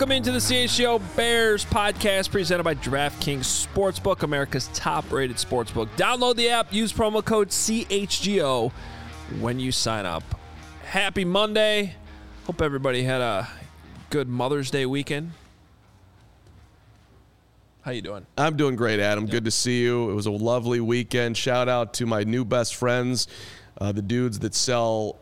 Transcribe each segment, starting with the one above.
Welcome into the CHGO Bears podcast presented by DraftKings Sportsbook, America's top-rated sportsbook. Download the app, use promo code CHGO when you sign up. Happy Monday. Hope everybody had a good Mother's Day weekend. How you doing? I'm doing great, Adam. Good to see you. It was a lovely weekend. Shout out to my new best friends, the dudes that sell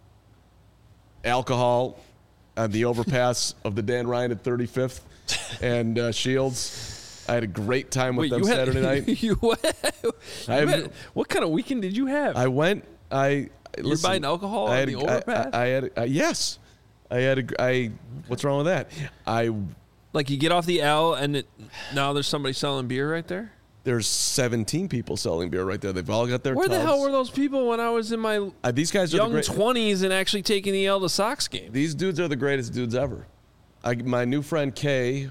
alcohol on the overpass of the Dan Ryan at 35th and Shields. I had a great time with them Saturday night. What kind of weekend did you have? I went. You're buying alcohol on the overpass? Yes. What's wrong with that? Like you get off the L and now there's somebody selling beer right there? There's 17 people selling beer right there. They've all got their Where tubs. the hell were those people when I was in my these guys are young 20s and actually taking the L to Sox game? These dudes are the greatest dudes ever. My new friend Kay,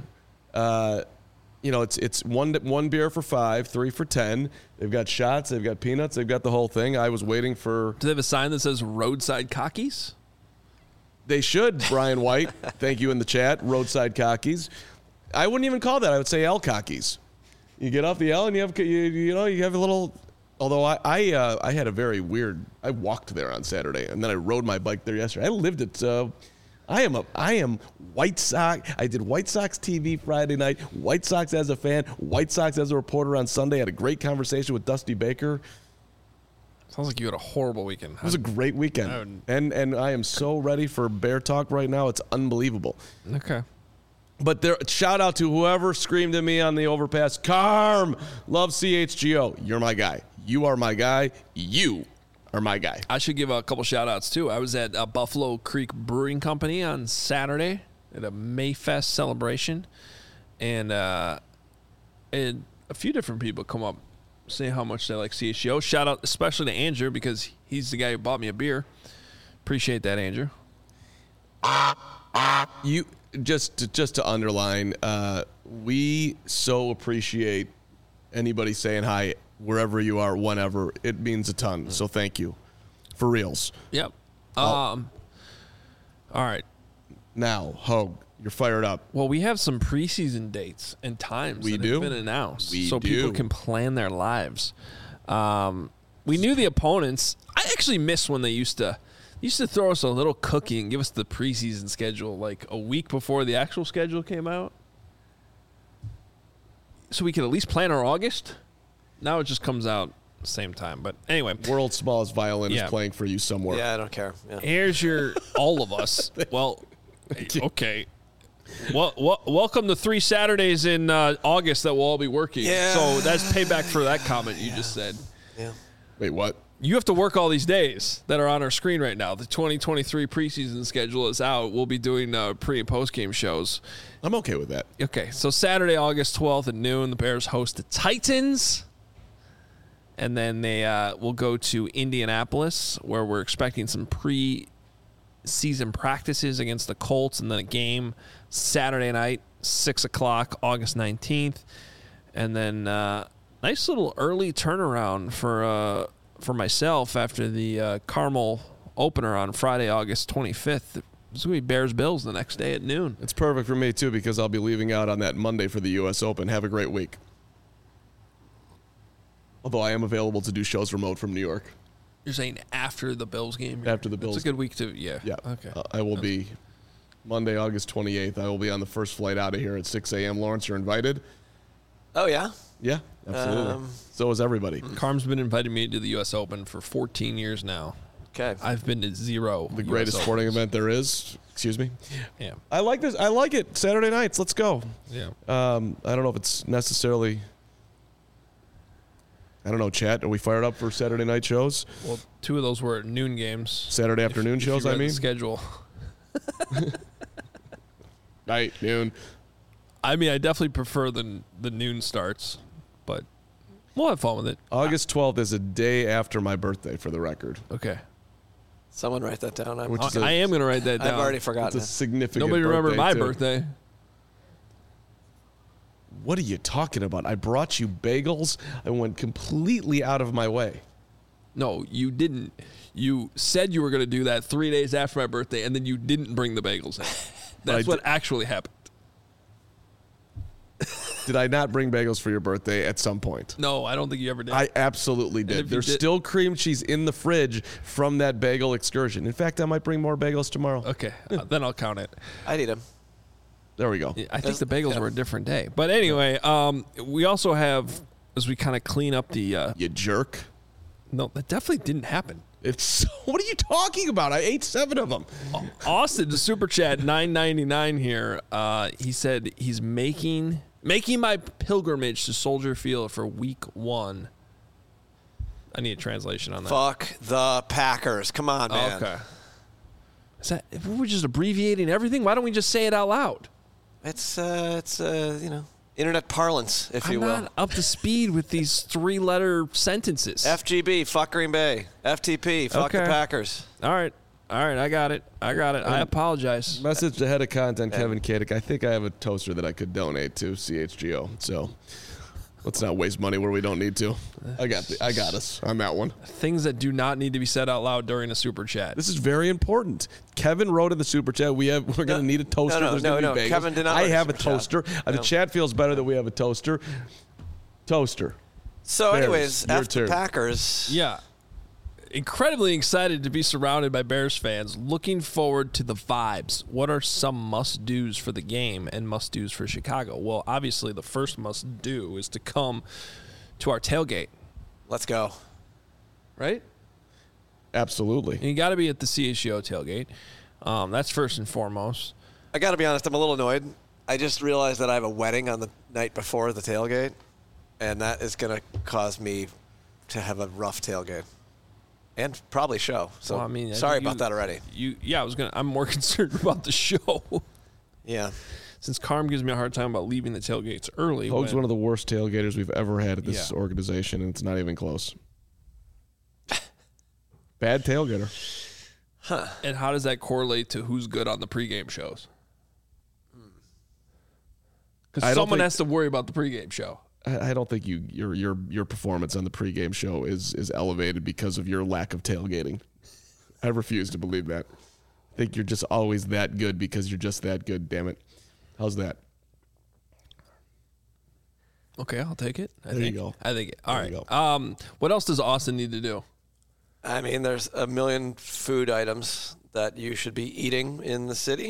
it's one beer for $5, 3 for $10. They've got shots, they've got peanuts, they've got the whole thing. I was waiting for. Do they have a sign that says Roadside Cockies? They should, Brian White. Thank you in the chat. Roadside Cockies. I wouldn't even call that. I would say L Cockies. You get off the L and you have a little. Although I had a very weird. I walked there on Saturday and then I rode my bike there yesterday. I lived at. I am White Sox. I did White Sox TV Friday night. White Sox as a fan. White Sox as a reporter on Sunday. I had a great conversation with Dusty Baker. Sounds like you had a horrible weekend. It was a great weekend. And I am so ready for Bear Talk right now. It's unbelievable. Okay. But shout out to whoever screamed at me on the overpass. Carm, love CHGO. You're my guy. You are my guy. You are my guy. I should give a couple shout outs too. I was at Buffalo Creek Brewing Company on Saturday at a Mayfest celebration. And a few different people come up say how much they like CHGO. Shout out especially to Andrew because he's the guy who bought me a beer. Appreciate that, Andrew. You just to underline, we so appreciate anybody saying hi wherever you are, whenever. It means a ton. So thank you. For reals. Yep. All right. Now, Hogue, you're fired up. Well, we have some preseason dates and times that have been announced so people can plan their lives. We knew the opponents. I actually miss when they used to throw us a little cookie and give us the preseason schedule like a week before the actual schedule came out. So we could at least plan our August. Now it just comes out the same time. But anyway. World's smallest violin is playing for you somewhere. Yeah, I don't care. Yeah. Here's your all of us. Well, okay. Well, welcome to 3 Saturdays in August that we'll all be working. Yeah. So that's payback for that comment you just said. Yeah. Wait, what? You have to work all these days that are on our screen right now. The 2023 preseason schedule is out. We'll be doing pre- and post-game shows. I'm okay with that. Okay, so Saturday, August 12th at noon, the Bears host the Titans. And then they will go to Indianapolis, where we're expecting some pre-season practices against the Colts, and then a game Saturday night, 6 o'clock, August 19th. And then nice little early turnaround for myself after the Carmel opener on Friday, August 25th. It's going to be Bears-Bills the next day at noon. It's perfect for me, too, because I'll be leaving out on that Monday for the U.S. Open. Have a great week. Although I am available to do shows remote from New York. You're saying after the Bills game? After the Bills. It's a good week, too. Yeah. Yeah. Okay. I will be Monday, August 28th. I will be on the first flight out of here at 6 a.m. Lawrence, you're invited. Oh, yeah? Yeah, absolutely. So is everybody. Carm's been inviting me to the U.S. Open for 14 years now. Okay. I've been to 0. The greatest sporting event there is. Excuse me. Yeah. I like this. I like it. Saturday nights. Let's go. Yeah. I don't know if it's necessarily. I don't know, chat. Are we fired up for Saturday night shows? Well, 2 of those were noon games. Saturday afternoon shows, if you I read mean? the schedule. Night, noon. I mean, I definitely prefer the noon starts, but we'll have fun with it. August 12th is a day after my birthday, for the record. Okay. Someone write that down. I am going to write that down. I've already forgotten. It's a significant Nobody remembered my too. birthday. What are you talking about? I brought you bagels. I went completely out of my way. No, you didn't. You said you were going to do that 3 days after my birthday, and then you didn't bring the bagels in. That's what actually happened. Did I not bring bagels for your birthday at some point? No, I don't think you ever did. I absolutely if did. you There's did- still cream cheese in the fridge from that bagel excursion. In fact, I might bring more bagels tomorrow. Okay, then I'll count it. I'd eat them. There we go. I think the bagels yeah. were a different day. But anyway, we also have, as we kind of clean up the... You jerk. no, that definitely didn't happen. What are you talking about? I ate 7 of them. Austin, the super chat, $9.99 here. He said he's making my pilgrimage to Soldier Field for week 1. I need a translation on that. Fuck the Packers. Come on, man. Okay. Is that we're just abbreviating everything? Why don't we just say it out loud? It's internet parlance, if you I'm will. not up to speed with these 3-letter sentences. FGB, fuck Green Bay. FTP, fuck the Okay. Packers. All right, I got it. I apologize. Message to head of content, Kevin Kadick. I think I have a toaster that I could donate to CHGO. So let's not waste money where we don't need to. I got us. I'm at one. Things that do not need to be said out loud during a super chat. This is very important. Kevin wrote in the super chat. We're going to need a toaster. no, There's gonna no, be bagels. Kevin did not I write a have a super chat. toaster. The No. chat feels better that we have a toaster. Toaster. So, Bears, anyways, your after turn. Packers. Yeah. Incredibly excited to be surrounded by Bears fans. Looking forward to the vibes. What are some must-dos for the game and must-dos for Chicago? Well, obviously, the first must-do is to come to our tailgate, Let's go. right? Absolutely. And you got to be at the CHGO tailgate. That's first and foremost. I got to be honest, I'm a little annoyed. I just realized that I have a wedding on the night before the tailgate, and that is going to cause me to have a rough tailgate. And probably show. So Well, I mean, I sorry think about that already. I'm more concerned about the show. Yeah. Since Carm gives me a hard time about leaving the tailgates early. Hoag's when- one of the worst tailgaters we've ever had at this Yeah. organization, and it's not even close. Bad tailgater. And how does that correlate to who's good on the pregame shows? I Because don't someone think- has to worry about the pregame show. I don't think your performance on the pregame show is elevated because of your lack of tailgating. I refuse to believe that. I think you're just always that good because you're just that good. Damn it. How's that? Okay, I'll take it. There you go. I think it. All There you right. What else does Austin need to do? I mean, there's a million food items that you should be eating in the city.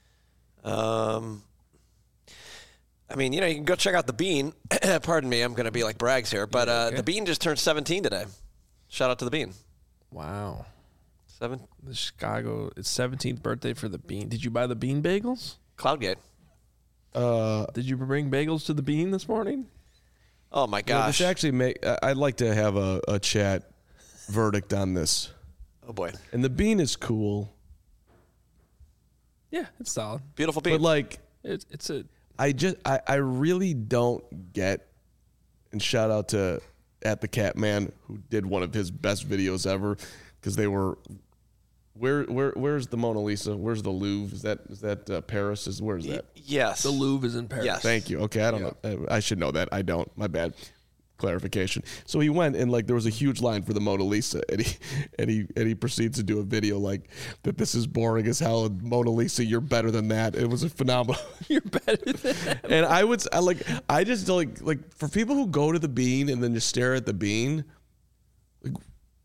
I mean, you can go check out the Bean. Pardon me, I'm going to be like Braggs here, but okay. the Bean just turned 17 today. Shout out to the Bean. Wow. 7 The Chicago, it's 17th birthday for the Bean. Did you buy the Bean bagels? Cloudgate. Did you bring bagels to the Bean this morning? Oh my You know, gosh. this actually I'd like to have a chat verdict on this. Oh boy. And the Bean is cool, Yeah, it's solid. Beautiful Bean. but like It's a I really don't get, and shout out to at the Catman who did one of his best videos ever, because they were where's the Mona Lisa? Where's the Louvre? Is that Paris? Where's that? yes. the Louvre is in Paris. Yes. Thank you. Okay, I don't know. I should know that. I don't. My bad. Clarification. So he went and like there was a huge line for the Mona Lisa, and he proceeds to do a video like that. This is boring as hell. And Mona Lisa, you're better than that. It was a phenomenal. You're better than that. And I just like for people who go to the Bean and then just stare at the Bean, like,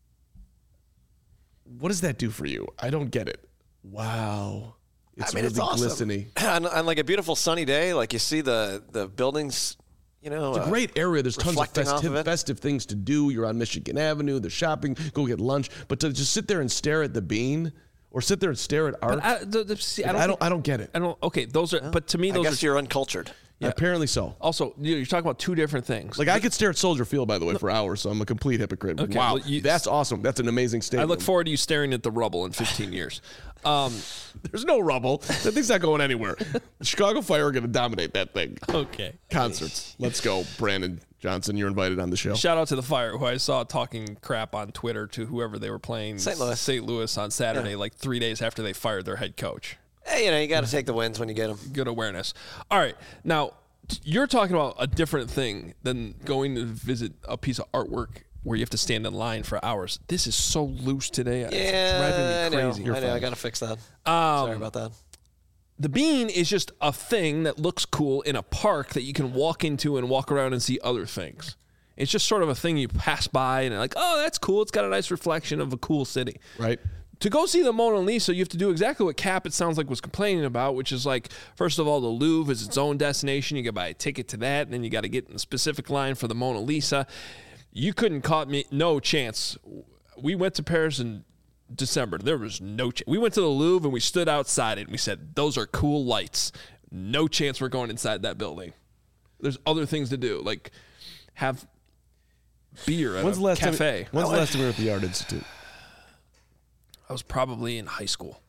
what does that do for you? I don't get it. Wow. It's really it's awesome. glistening. on like a beautiful sunny day, like you see the buildings, It's a great area. There's tons of reflecting off of it. festive things to do. You're on Michigan Avenue. There's shopping. Go get lunch. But to just sit there and stare at the Bean, or sit there and stare at art, I don't get it. I don't. Okay, those are. But to me, I those guess are. you're uncultured. Apparently so. Also, you're talking about two different things. Like I could stare at Soldier Field, by the way, for hours. So I'm a complete hypocrite. Okay, Wow, well, that's awesome. That's an amazing I statement. look forward to you staring at the rubble in 15 years. There's no rubble. That thing's not going anywhere. The Chicago Fire are going to dominate that thing. Okay. Concerts. Let's go, Brandon Johnson. You're invited on the show. Shout out to the Fire, who I saw talking crap on Twitter to whoever they were playing St. Louis. St. Louis on Saturday, like 3 days after they fired their head coach. Hey, you got to take the wins when you get them. Good awareness. All right. Now, you're talking about a different thing than going to visit a piece of artwork where you have to stand in line for hours. This is so loose today. It's driving me crazy. I know. I got to fix that. Sorry about that. The Bean is just a thing that looks cool in a park that you can walk into and walk around and see other things. It's just sort of a thing you pass by and like, oh, that's cool. It's got a nice reflection of a cool city. Right. To go see the Mona Lisa, you have to do exactly what Cap, it sounds like, was complaining about, which is like, first of all, the Louvre is its own destination. You got to buy a ticket to that, and then you got to get in a specific line for the Mona Lisa. You couldn't caught me, no chance. We went to Paris in December. There was no chance. We went to the Louvre and we stood outside it and we said, those are cool lights. No chance we're going inside that building. There's other things to do, like have beer at a cafe. When's the last time we were at the Art Institute? I was probably in high school.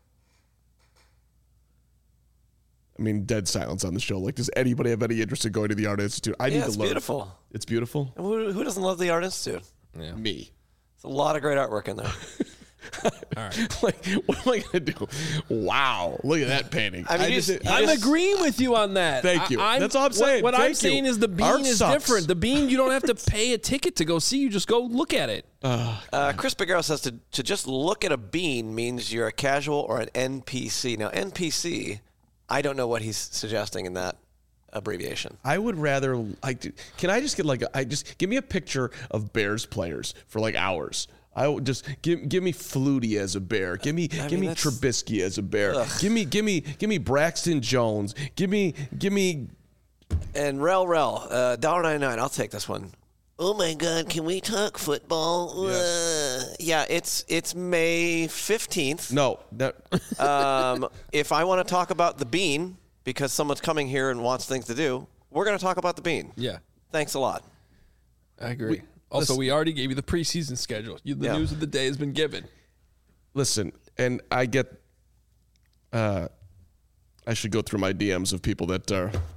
I mean, dead silence on the show. Like, does anybody have any interest in going to the Art Institute? I need to learn. It's beautiful. It's beautiful? Who doesn't love the Art Institute? Yeah. Me. There's a lot of great artwork in there. All right. Like, what am I going to do? Wow. Look at that painting. I mean, I'm agreeing with you on that. Thank you. That's all I'm saying. What Thank I'm you. saying is the Bean Art is sucks. different. The Bean, you don't have to pay a ticket to go see. You just go look at it. Chris Bigaro says to just look at a bean means you're a casual or an NPC. Now, NPC, I don't know what he's suggesting in that abbreviation. I would rather, can I just get give me a picture of Bears players for like hours. I would just give me Flutie as a Bear. Give me Trubisky as a Bear. Ugh. Give me Braxton Jones. Give me. And Rel, $1.99. I'll take this one. Oh my God! Can we talk football? Yes. Yeah, it's May 15th. No. If I want to talk about the Bean because someone's coming here and wants things to do, we're going to talk about the Bean. Yeah. Thanks a lot. I agree. We already gave you the preseason schedule. The news of the day has been given. Listen, and I get. I should go through my DMs of people that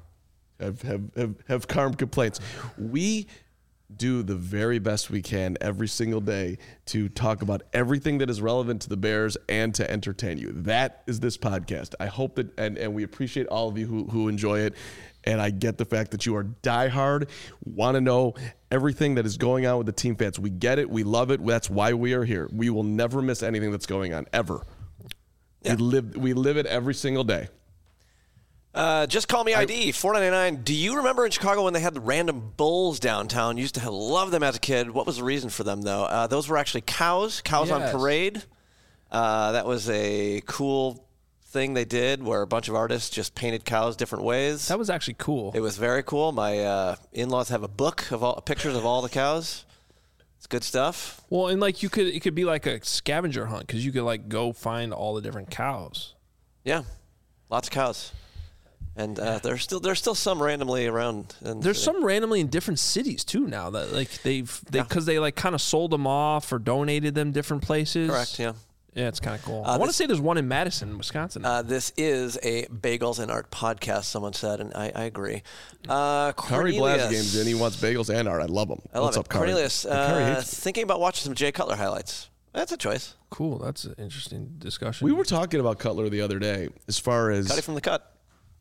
have calm complaints. We do the very best we can every single day to talk about everything that is relevant to the Bears and to entertain you. That is this podcast. I hope that, and we appreciate all of you who enjoy it. And I get the fact that you are diehard, want to know everything that is going on with the team fans. We get it. We love it. That's why we are here. We will never miss anything that's going on, ever. Yeah. We live it every single day. Just call me ID, $4.99. Do you remember in Chicago when they had the random bulls downtown? Used to love them as a kid. What was the reason for them, though? Those were actually cows on parade. That was a cool thing they did where a bunch of artists just painted cows different ways. That was actually cool. It was very cool. My in-laws have a book of all pictures of all the cows. It's good stuff. Well, and like it could be like a scavenger hunt because you could go find all the different cows. Yeah, lots of cows. And there's still some randomly around. There's some randomly in different cities too now that because they kind of sold them off or donated them different places. Correct. Yeah. Yeah, it's kind of cool. I want to say there's one in Madison, Wisconsin. This is a Bagels and Art podcast, someone said, and I agree. Kari Blasgame's in. He wants bagels and art. I love them. What's up, Kari? Cornelius, thinking about watching some Jay Cutler highlights. That's a choice. Cool. That's an interesting discussion. We were talking about Cutler the other day as far as Cutty from the cut.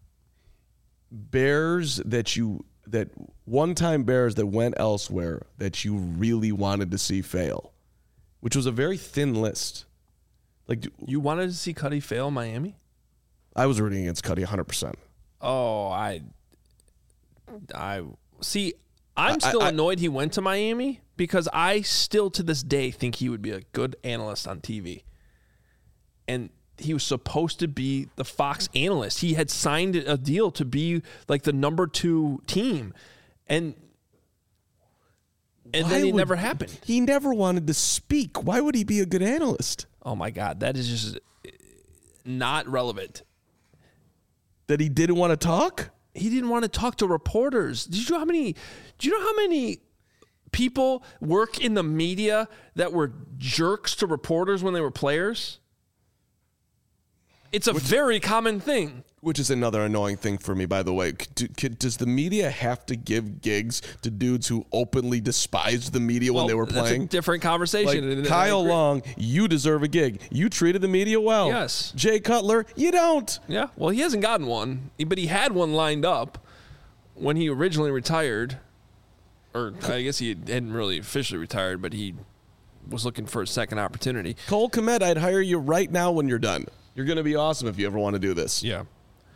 Bears that one-time Bears that went elsewhere that you really wanted to see fail, which was a very thin list. Like, you wanted to see Cuddy fail in Miami? I was rooting against Cuddy 100%. Oh, I see. I'm still annoyed he went to Miami because I still to this day think he would be a good analyst on TV. And he was supposed to be the Fox analyst. He had signed a deal to be like the number 2 team. And then it never happened. He never wanted to speak. Why would he be a good analyst? Oh, my God. That is just not relevant. That he didn't want to talk? He didn't want to talk to reporters. Do you know how many people work in the media that were jerks to reporters when they were players? It's a very common thing. Which is another annoying thing for me, by the way. Does the media have to give gigs to dudes who openly despised the media when they were playing? That's a different conversation. Like Kyle Long, you deserve a gig. You treated the media well. Yes. Jay Cutler, you don't. Yeah. Well, he hasn't gotten one, but he had one lined up when he originally retired. Or I guess he hadn't really officially retired, but he was looking for a second opportunity. Cole Kmet, I'd hire you right now when you're done. You're going to be awesome if you ever want to do this. Yeah.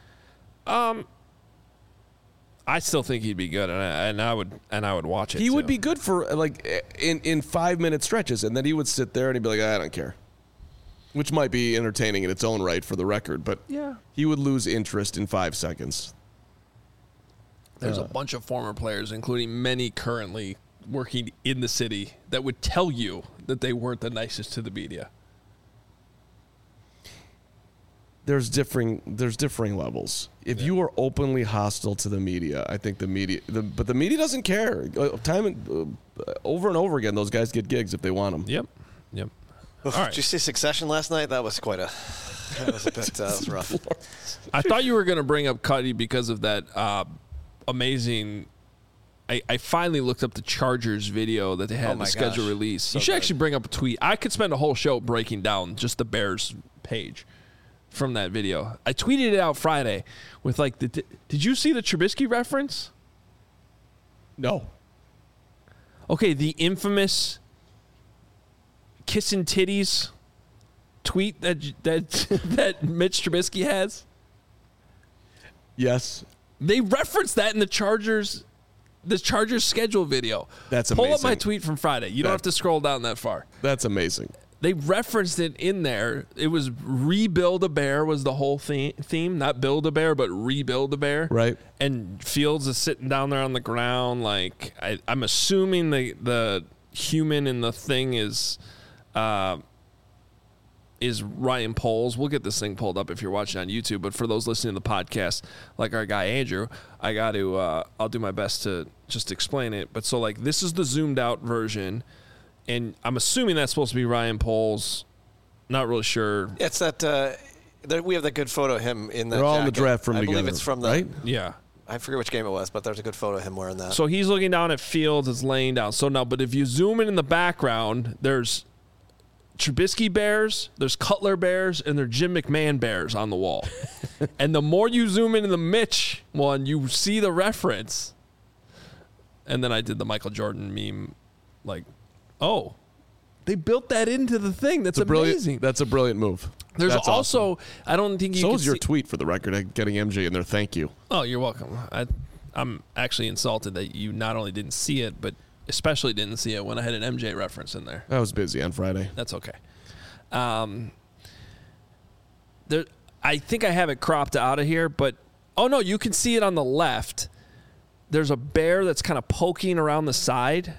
I still think he'd be good, and I would watch it. He too. would be good for like in 5-minute stretches, and then he would sit there and he'd be like, I don't care, which might be entertaining in its own right for the record, but Yeah. he would lose interest in 5 seconds. There's a bunch of former players, including many currently working in the city, that would tell you that they weren't the nicest to the media. There's differing levels. If you are openly hostile to the media, I think but the media doesn't care. Over and over again, those guys get gigs if they want them. Yep. Oof, All right. Did you see Succession last night? That was quite a. That was a bit. That was rough. I thought you were going to bring up Cuddy because of that amazing. I finally looked up the Chargers video that they had in the schedule release. So you should good. actually bring up a tweet. I could spend a whole show breaking down just the Bears page from that video. I tweeted it out Friday with like did you see the Trubisky reference? No. Okay, the infamous kissing titties tweet that that Mitch Trubisky has. Yes. They referenced that in the Chargers schedule video. That's Pull up amazing. my tweet from Friday. You don't have to scroll down that far. That's amazing. They referenced it in there. It was rebuild a bear was the whole theme. Not build a bear, but rebuild a bear. Right. And Fields is sitting down there on the ground. Like I'm assuming the human in the thing is Ryan Poles. We'll get this thing pulled up if you're watching on YouTube. But for those listening to the podcast, like our guy Andrew, I got to I'll do my best to just explain it. But so like this is the zoomed out version. And I'm assuming that's supposed to be Ryan Poles. Not really sure. It's that. We have that good photo of him in the. They're all in the jacket. draft room I together. believe it's from the. right? Yeah. I forget which game it was, but there's a good photo of him wearing that. So he's looking down at Fields. It's laying down. So now, but if you zoom in the background, there's Trubisky bears, there's Cutler bears, and there's Jim McMahon bears on the wall. And the more you zoom into the Mitch one, you see the reference. And then I did the Michael Jordan meme, like, oh, they built that into the thing. That's amazing. That's a brilliant move. There's That's also, awesome. I don't think you So can is your see- tweet for the record, getting MJ in there. Thank you. Oh, you're welcome. I'm actually insulted that you not only didn't see it, but especially didn't see it when I had an MJ reference in there. I was busy on Friday. That's okay. There, I think I have it cropped out of here, but oh no, you can see it on the left. There's a bear that's kind of poking around the side.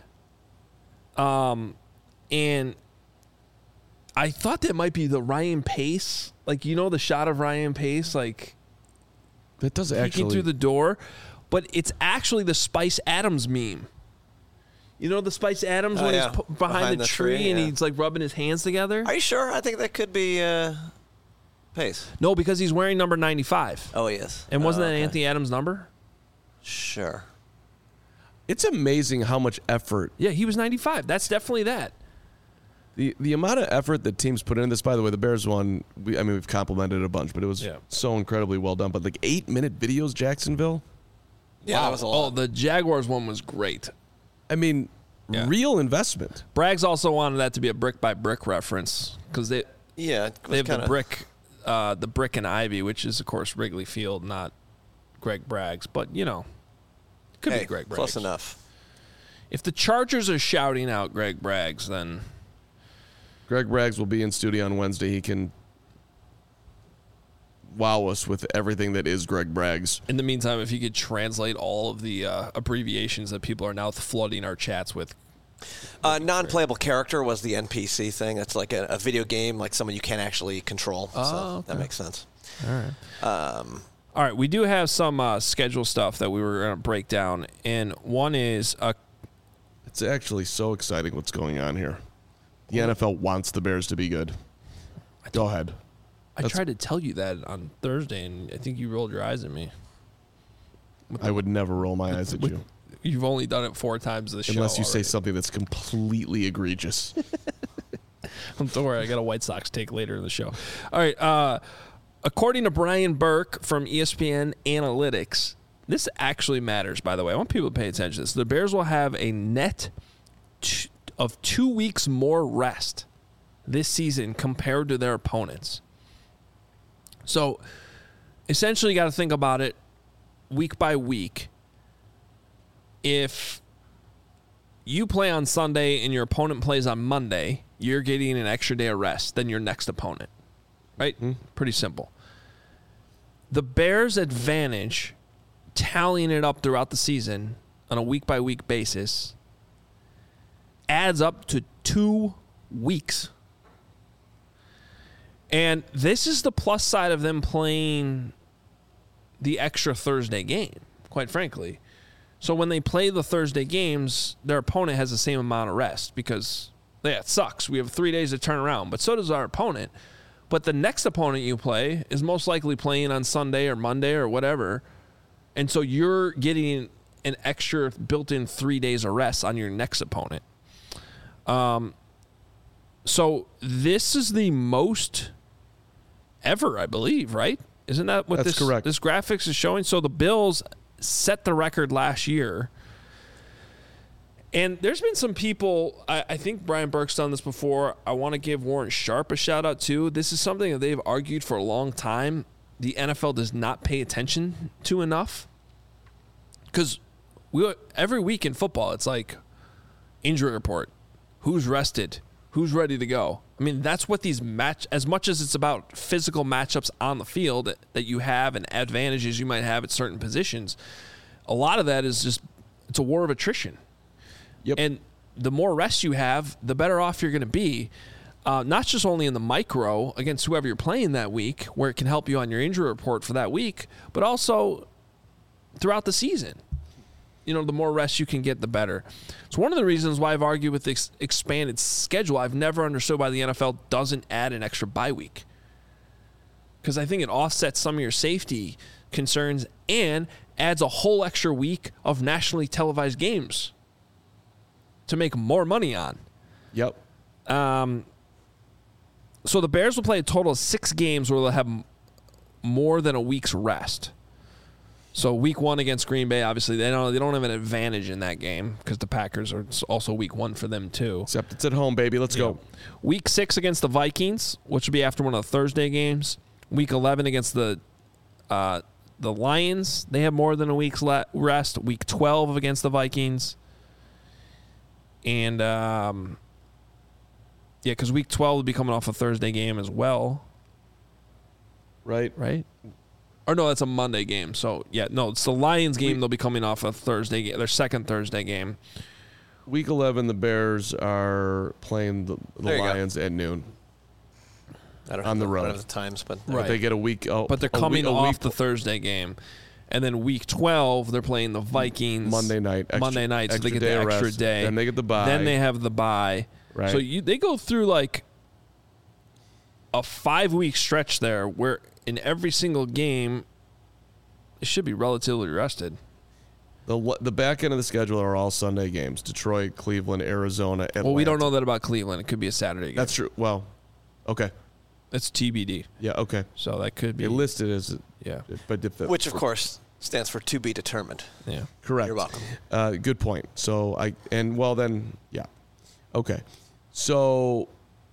And I thought that might be the Ryan Pace, like the shot of Ryan Pace, like That does peeking actually. through the door, but it's actually the Spice Adams meme. You know the Spice Adams when yeah. he's behind the tree and yeah. he's like rubbing his hands together? Are you sure? I think that could be Pace. No, because he's wearing number 95. Oh, he is. And wasn't that okay. Anthony Adams' number? Sure. It's amazing how much effort. Yeah, he was 95. That's definitely that. The amount of effort that teams put into this, by the way, the Bears one, we've complimented it a bunch, but it was so incredibly well done. But like 8-minute videos, Jacksonville? Yeah, that was a lot. Oh, the Jaguars one was great. I mean, real investment. Braggs also wanted that to be a brick-by-brick reference because they have the brick and ivy, which is, of course, Wrigley Field, not Greg Braggs. But, could be Greg Braggs. Close enough. If the Chargers are shouting out Greg Braggs, then Greg Braggs will be in studio on Wednesday. He can wow us with everything that is Greg Braggs. in the meantime, if you could translate all of the abbreviations that people are now flooding our chats with. Non-playable character was the NPC thing. It's like a video game, like someone you can't actually control. So that makes sense. All right. All right, we do have some schedule stuff that we were going to break down, and one is It's actually so exciting what's going on here. The NFL wants the Bears to be good. Go ahead. I tried to tell you that on Thursday, and I think you rolled your eyes at me. I would never roll my eyes at you. You've only done it 4 times this show. Unless you say already. something that's completely egregious. Don't worry, I got a White Sox take later in the show. All right. According to Brian Burke from ESPN Analytics, this actually matters, by the way. I want people to pay attention to this. The Bears will have a net of 2 weeks more rest this season compared to their opponents. So, essentially, you got to think about it. week by week, if you play on Sunday and your opponent plays on Monday, you're getting an extra day of rest than your next opponent. Right? Mm-hmm. Pretty simple. The Bears' advantage, tallying it up throughout the season on a week-by-week basis, adds up to 2 weeks. And this is the plus side of them playing the extra Thursday game, quite frankly. So when they play the Thursday games, their opponent has the same amount of rest because, yeah, it sucks. We have 3 days to turn around, but so does our opponent. But the next opponent you play is most likely playing on Sunday or Monday or whatever. And so you're getting an extra built-in 3 days of rest on your next opponent. So this is the most ever, I believe, right? Isn't that what That's correct. This graphics is showing? So the Bills set the record last year. And there's been some people, I think Brian Burke's done this before. I want to give Warren Sharp a shout out too. This is something that they've argued for a long time. The NFL does not pay attention to enough. Because every week in football, it's like injury report. Who's rested? Who's ready to go? I mean, that's what these as much as it's about physical matchups on the field that you have and advantages you might have at certain positions, a lot of that is just, it's a war of attrition. Yep. And the more rest you have, the better off you're going to be. Not just only in the micro against whoever you're playing that week, where it can help you on your injury report for that week, but also throughout the season. You know, the more rest you can get, the better. It's one of the reasons why I've argued with this expanded schedule. I've never understood why the NFL doesn't add an extra bye week. Because I think it offsets some of your safety concerns and adds a whole extra week of nationally televised games to make more money on. Yep. So the Bears will play a total of 6 games where they'll have more than a week's rest. So week 1 against Green Bay, obviously they don't have an advantage in that game because the Packers are also week 1 for them too. Except it's at home, baby. Let's go. Week 6 against the Vikings, which will be after one of the Thursday games. Week 11 against the Lions, they have more than a week's rest. Week 12 against the Vikings, and because week 12 will be coming off a Thursday game as well. Right. Or no, that's a Monday game. So, it's the Lions game. They'll be coming off a Thursday game, their second Thursday game. Week 11, the Bears are playing the Lions at noon. I don't on the road. I don't have the times, but Right. They get a week. But they're coming off the Thursday game. And then week 12, they're playing the Vikings. Monday night. So they get the extra day. Then they get the bye. Then they have the bye. Right. So they go through like a 5-week stretch there where in every single game, it should be relatively rested. The back end of the schedule are all Sunday games. Detroit, Cleveland, Arizona, Atlanta. Well, we don't know that about Cleveland. It could be a Saturday game. That's true. Well, okay. It's TBD. Yeah, okay. So that could be. It listed as... Yeah. But which, of course, stands for to be determined. Yeah. Correct. You're welcome. Good point. So, yeah. Okay. So,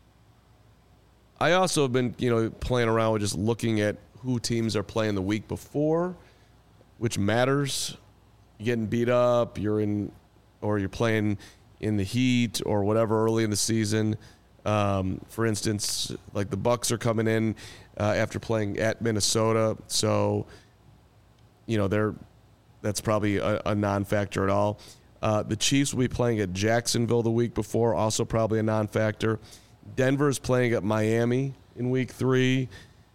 I also have been, playing around with just looking at who teams are playing the week before, which matters. You're getting beat up, you're playing in the heat or whatever early in the season. For instance, like the Bucs are coming in after playing at Minnesota, so that's probably a non-factor at all. The Chiefs will be playing at Jacksonville the week before, also probably a non-factor. Denver is playing at Miami in week 3.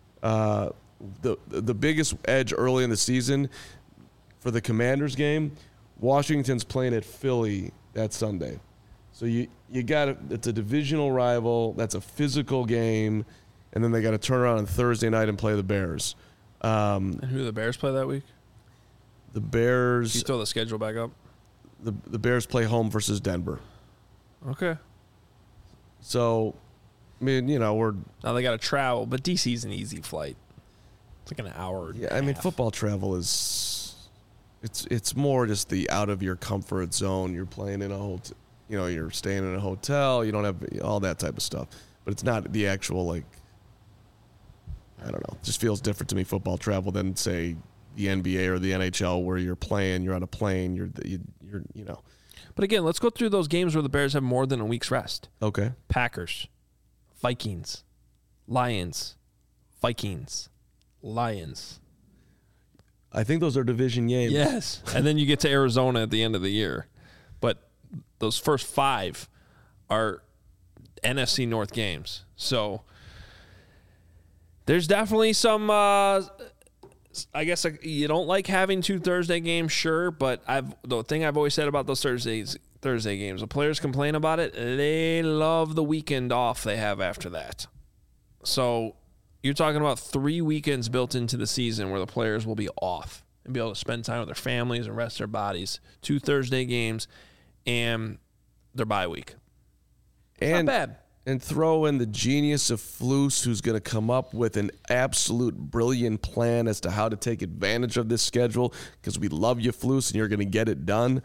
The biggest edge early in the season for the Commanders game, Washington's playing at Philly that Sunday. So you got it's a divisional rival. That's a physical game, and then they got to turn around on Thursday night and play the Bears. And who do the Bears play that week? The Bears. Can you throw the schedule back up? The Bears play home versus Denver. Okay. So, I mean, we're now they got to travel, but DC's an easy flight. It's like an hour. Yeah, I mean, football travel is it's more just the out of your comfort zone. You're playing in a hotel. You're staying in a hotel. You don't have all that type of stuff. But it's not the actual, I don't know. It just feels different to me, football travel, than, say, the NBA or the NHL where you're on a plane, you're But again, let's go through those games where the Bears have more than a week's rest. Okay. Packers, Vikings, Lions, Vikings, Lions. I think those are division games. Yes. And then you get to Arizona at the end of the year. But those first 5 are NFC North games. So there's definitely some, I guess you don't like having 2 Thursday games, sure. But the thing I've always said about those Thursday games, the players complain about it. They love the weekend off they have after that. So you're talking about 3 weekends built into the season where the players will be off and be able to spend time with their families and rest their bodies. 2 Thursday games and their bye week. Not bad. And throw in the genius of Flus, who's going to come up with an absolute brilliant plan as to how to take advantage of this schedule, because we love you, Flus, and you're going to get it done.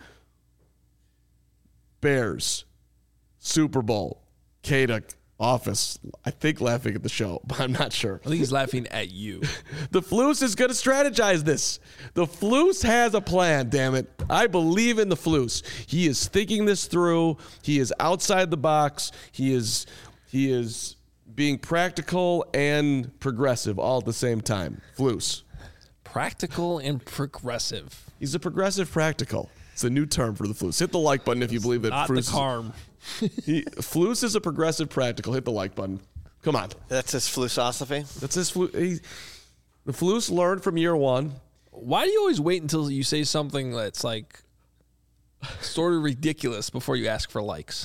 Bears, Super Bowl, Kada, office. I think laughing at the show, but I'm not sure. I think he's laughing at you. The Flus is going to strategize this. The Flus has a plan, damn it. I believe in the Flus. He is thinking this through. He is outside the box. He is being practical and progressive all at the same time. Flus. Practical and progressive. He's a progressive practical. It's a new term for the Flus. Hit the like button if you believe that Not Flus the Carm. Flus is a progressive practical. Hit the like button. Come on. That's his philosophy. That's his The Flus learned from year 1. Why do you always wait until you say something that's like sort of ridiculous before you ask for likes?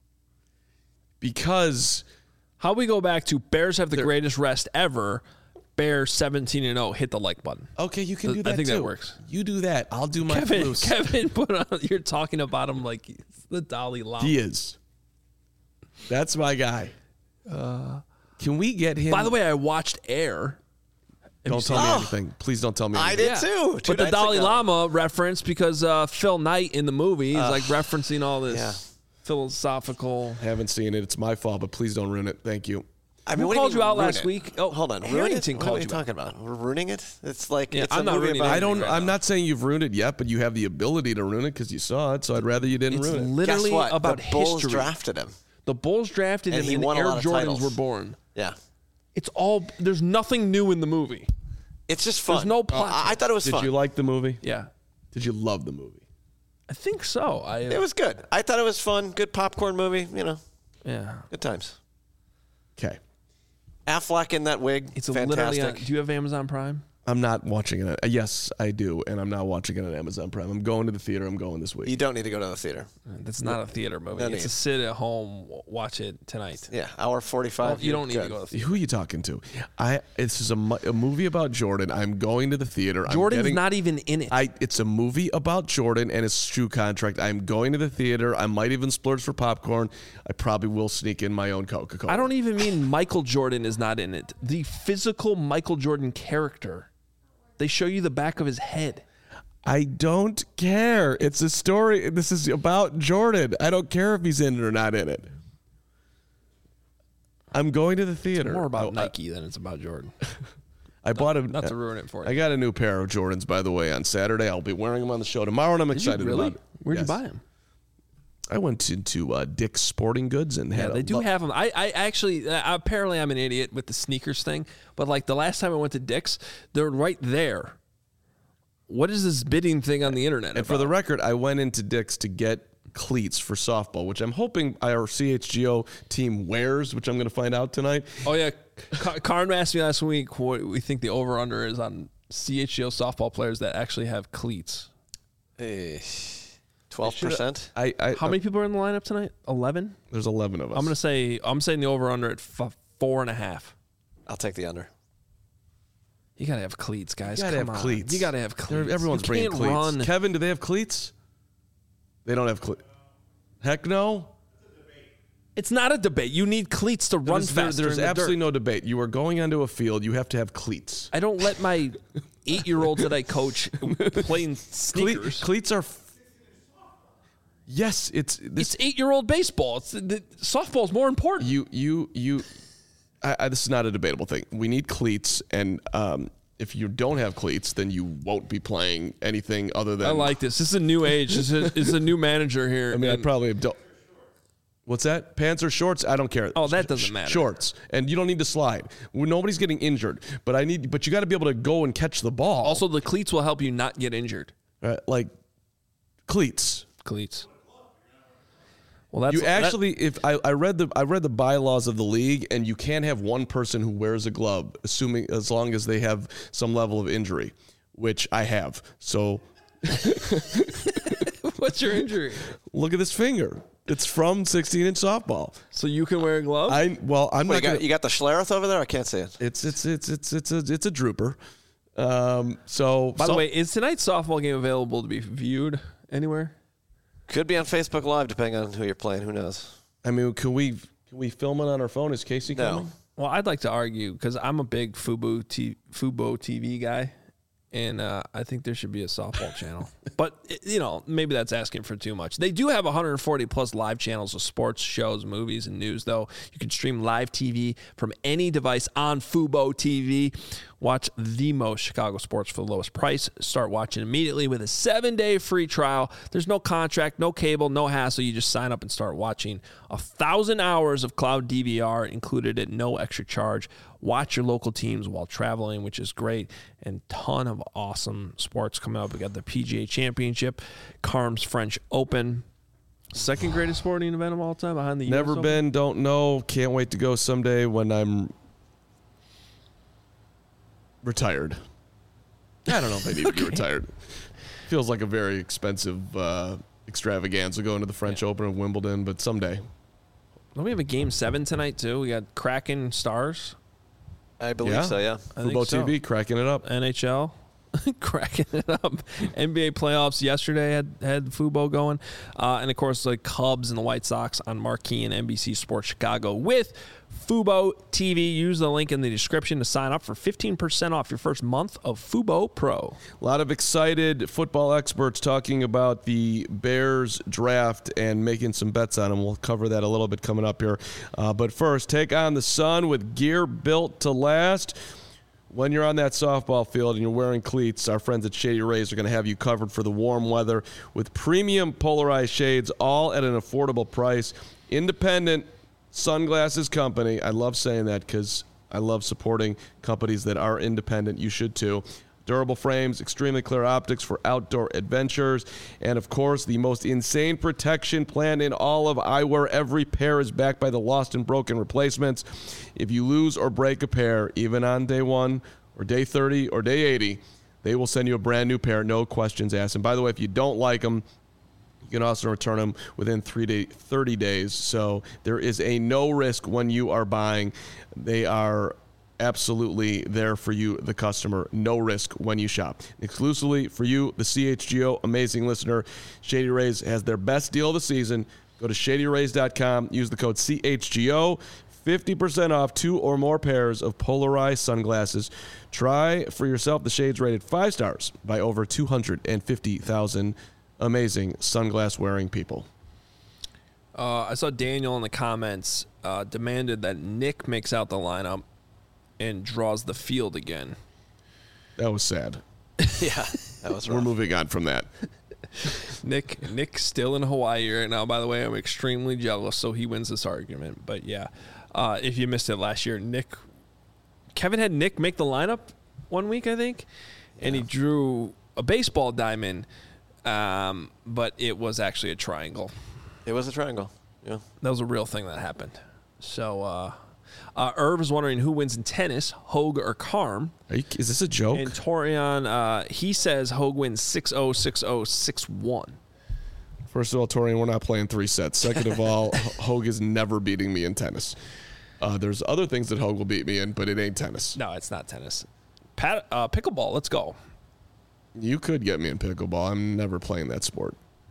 Because how we go back to Bears have the greatest rest ever. Bears 17-0. Hit the like button. Okay, you can do that. I think too. that works. You do that. I'll do my Flus. Kevin put on. You're talking about him like it's the Dalai Lama. He is. That's my guy. Can we get him? By the way, I watched Air. Don't tell me anything. Please don't tell me I anything. did too. But the Dalai Lama reference, because Phil Knight in the movie is like referencing all this philosophical. Haven't seen it. It's my fault, but please don't ruin it. Thank you. I mean, Who what do called mean you out ruin last it? week? Oh, Hold on. Harrington What are called we you talking about? We're ruining it? It's like it's I'm a not movie ruining about. it. I'm not saying you've ruined it yet, but you have the ability to ruin it because you saw it. So I'd rather you didn't It's ruin it. literally Guess what? about the Bulls history. drafted him. The Bulls drafted And him, he and won a Air lot of Jordans titles. were born. Yeah. It's all. There's nothing new in the movie. It's just fun. There's no plot. I thought it was Did fun. you like the movie? Yeah, Did you love the movie? I think so. It was good. I thought it was fun. Good popcorn movie. Yeah. Good times. Okay. Affleck in that wig. It's fantastic. literally. Do you have Amazon Prime? I'm not watching it. Yes, I do, and I'm not watching it on Amazon Prime. I'm going to the theater. I'm going this week. You don't need to go to the theater. That's not a theater movie. No It's a need. sit at home, watch it tonight. Yeah, hour 45. You don't need good. to go to the theater. Who are you talking to? This is a movie about Jordan. I'm going to the theater. Jordan's not even in it. It's a movie about Jordan and his shoe contract. I'm going to the theater. I might even splurge for popcorn. I probably will sneak in my own Coca-Cola. I don't even mean Michael Jordan is not in it. The physical Michael Jordan character. They show you the back of his head. I don't care. It's a story. This is about Jordan. I don't care if he's in it or not in it. I'm going to the theater. It's more about Nike than it's about Jordan. I bought Not to ruin it for you. I got a new pair of Jordans, by the way, on Saturday. I'll be wearing them on the show tomorrow, and I'm Did you excited really? about it. Where'd Yes. you buy them? I went into Dick's Sporting Goods and Yeah, had they do have them. I actually, apparently I'm an idiot with the sneakers thing, but like the last time I went to Dick's, they're right there. What is this bidding thing on the internet? And for the record, I went into Dick's to get cleats for softball, which I'm hoping our CHGO team wears, which I'm going to find out tonight. Oh, yeah. Karn asked me last week what we think the over-under is on CHGO softball players that actually have cleats. 12%. How many people are in the lineup tonight? 11? There's 11 of us. I'm saying the over-under at 4.5. I'll take the under. You got to have cleats, guys. You gotta Come have on. cleats. You got to have cleats. Everyone's you bringing can't cleats. Run. Kevin, do they have cleats? They don't have cleats. Heck no. It's not a debate. You need cleats to run faster. There's in the absolutely dirt. no debate. You are going onto a field. You have to have cleats. I don't let my 8-year-olds that I coach play in sneakers. Cleats are. Yes, It's 8-year-old baseball. Softball's more important. this is not a debatable thing. We need cleats, and if you don't have cleats, then you won't be playing anything other than. I like this. This is a new age. This is a new manager here. I mean, I probably don't. What's that? Pants or shorts? I don't care. Oh, that doesn't matter. Shorts, and you don't need to slide. Nobody's getting injured, but you got to be able to go and catch the ball. Also, the cleats will help you not get injured. Like cleats. Well, that's if I read the bylaws of the league, and you can't have one person who wears a glove, as long as they have some level of injury, which I have. So, what's your injury? Look at this finger. It's from 16-inch softball. So you can wear a glove? You got the Schlereth over there? I can't see it. It's a drooper. By the way, is tonight's softball game available to be viewed anywhere? Could be on Facebook Live, depending on who you're playing. Who knows? I mean, can we film it on our phone? Is Casey coming? No. Well, I'd like to argue because I'm a big Fubo TV guy, and I think there should be a softball channel. But, maybe that's asking for too much. They do have 140-plus live channels of sports, shows, movies, and news, though. You can stream live TV from any device on Fubo TV. Watch the most Chicago sports for the lowest price. Start watching immediately with a 7-day free trial. There's no contract, no cable, no hassle. You just sign up and start watching. 1,000 hours of cloud DVR included at no extra charge. Watch your local teams while traveling, which is great. And ton of awesome sports coming up. We got the PGA Championship, Carm's French Open. Second greatest sporting event of all time behind the US Never Open. been, don't know. Can't wait to go someday when I'm retired. I don't know if I need to be retired. Feels like a very expensive extravaganza going to the French Open of Wimbledon, but someday. Don't we have a Game 7 tonight, too? We got Kraken Stars. I believe so, yeah. Fubo TV, cracking it up. NHL. Cracking it up. NBA playoffs yesterday had Fubo going. And, of course, the Cubs and the White Sox on Marquee and NBC Sports Chicago with Fubo TV. Use the link in the description to sign up for 15% off your first month of Fubo Pro. A lot of excited football experts talking about the Bears draft and making some bets on them. We'll cover that a little bit coming up here. But first, take on the sun with gear built to last. When you're on that softball field and you're wearing cleats, our friends at Shady Rays are going to have you covered for the warm weather with premium polarized shades, all at an affordable price. Independent sunglasses company. I love saying that because I love supporting companies that are independent. You should too. Durable frames, extremely clear optics for outdoor adventures, and of course, the most insane protection plan in all of eyewear. Every pair is backed by the lost and broken replacements. If you lose or break a pair, even on day 1 or day 30 or day 80, they will send you a brand new pair, no questions asked. And by the way, if you don't like them, you can also return them within 30 days. So there is a no risk when you are buying. They are absolutely there for you, the customer. No risk when you shop. Exclusively for you, the CHGO amazing listener, Shady Rays has their best deal of the season. Go to shadyrays.com. Use the code CHGO. 50% off 2 or more pairs of polarized sunglasses. Try for yourself the shades rated 5 stars by over 250,000 amazing sunglass wearing people. I saw Daniel in the comments demanded that Nick makes out the lineup and draws the field again. That was sad. Yeah, that was rough. We're moving on from that. Nick's still in Hawaii right now. By the way, I'm extremely jealous, so he wins this argument. But yeah, if you missed it last year, Kevin had Nick make the lineup one week, I think, and he drew a baseball diamond, but it was actually a triangle. It was a triangle. Yeah, that was a real thing that happened. So. Irv is wondering who wins in tennis, Hogue or Carm. Is this a joke? And Torian, he says Hogue wins 6-0, 6-0, 6-1. First of all, Torian, we're not playing 3 sets. Second of all, Hogue is never beating me in tennis. There's other things that Hogue will beat me in, but it ain't tennis. No, it's not tennis. Pickleball, let's go. You could get me in pickleball. I'm never playing that sport.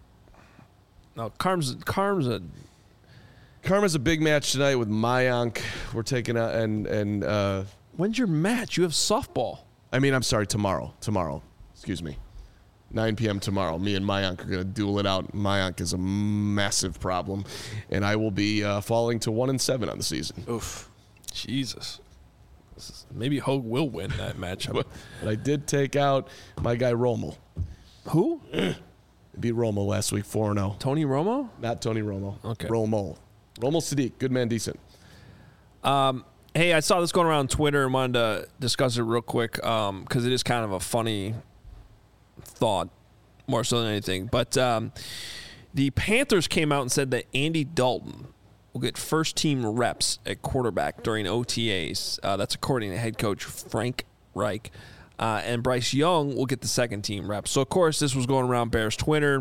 No, Carm's a... Karma's a big match tonight with Mayank. We're taking out and when's your match? You have softball. I mean, I'm sorry, tomorrow. Excuse me. 9 p.m. tomorrow. Me and Mayank are going to duel it out. Mayank is a massive problem, and I will be falling to 1-7 on the season. Oof. Jesus. Maybe Hogue will win that matchup. But I did take out my guy Romo. Who? Beat Romo last week 4-0. Tony Romo? Not Tony Romo. Okay. Romo Sadiq. Good man, decent. Hey, I saw this going around Twitter and wanted to discuss it real quick because it is kind of a funny thought more so than anything. But the Panthers came out and said that Andy Dalton will get first-team reps at quarterback during OTAs. That's according to head coach Frank Reich. And Bryce Young will get the second-team reps. So, of course, this was going around Bears Twitter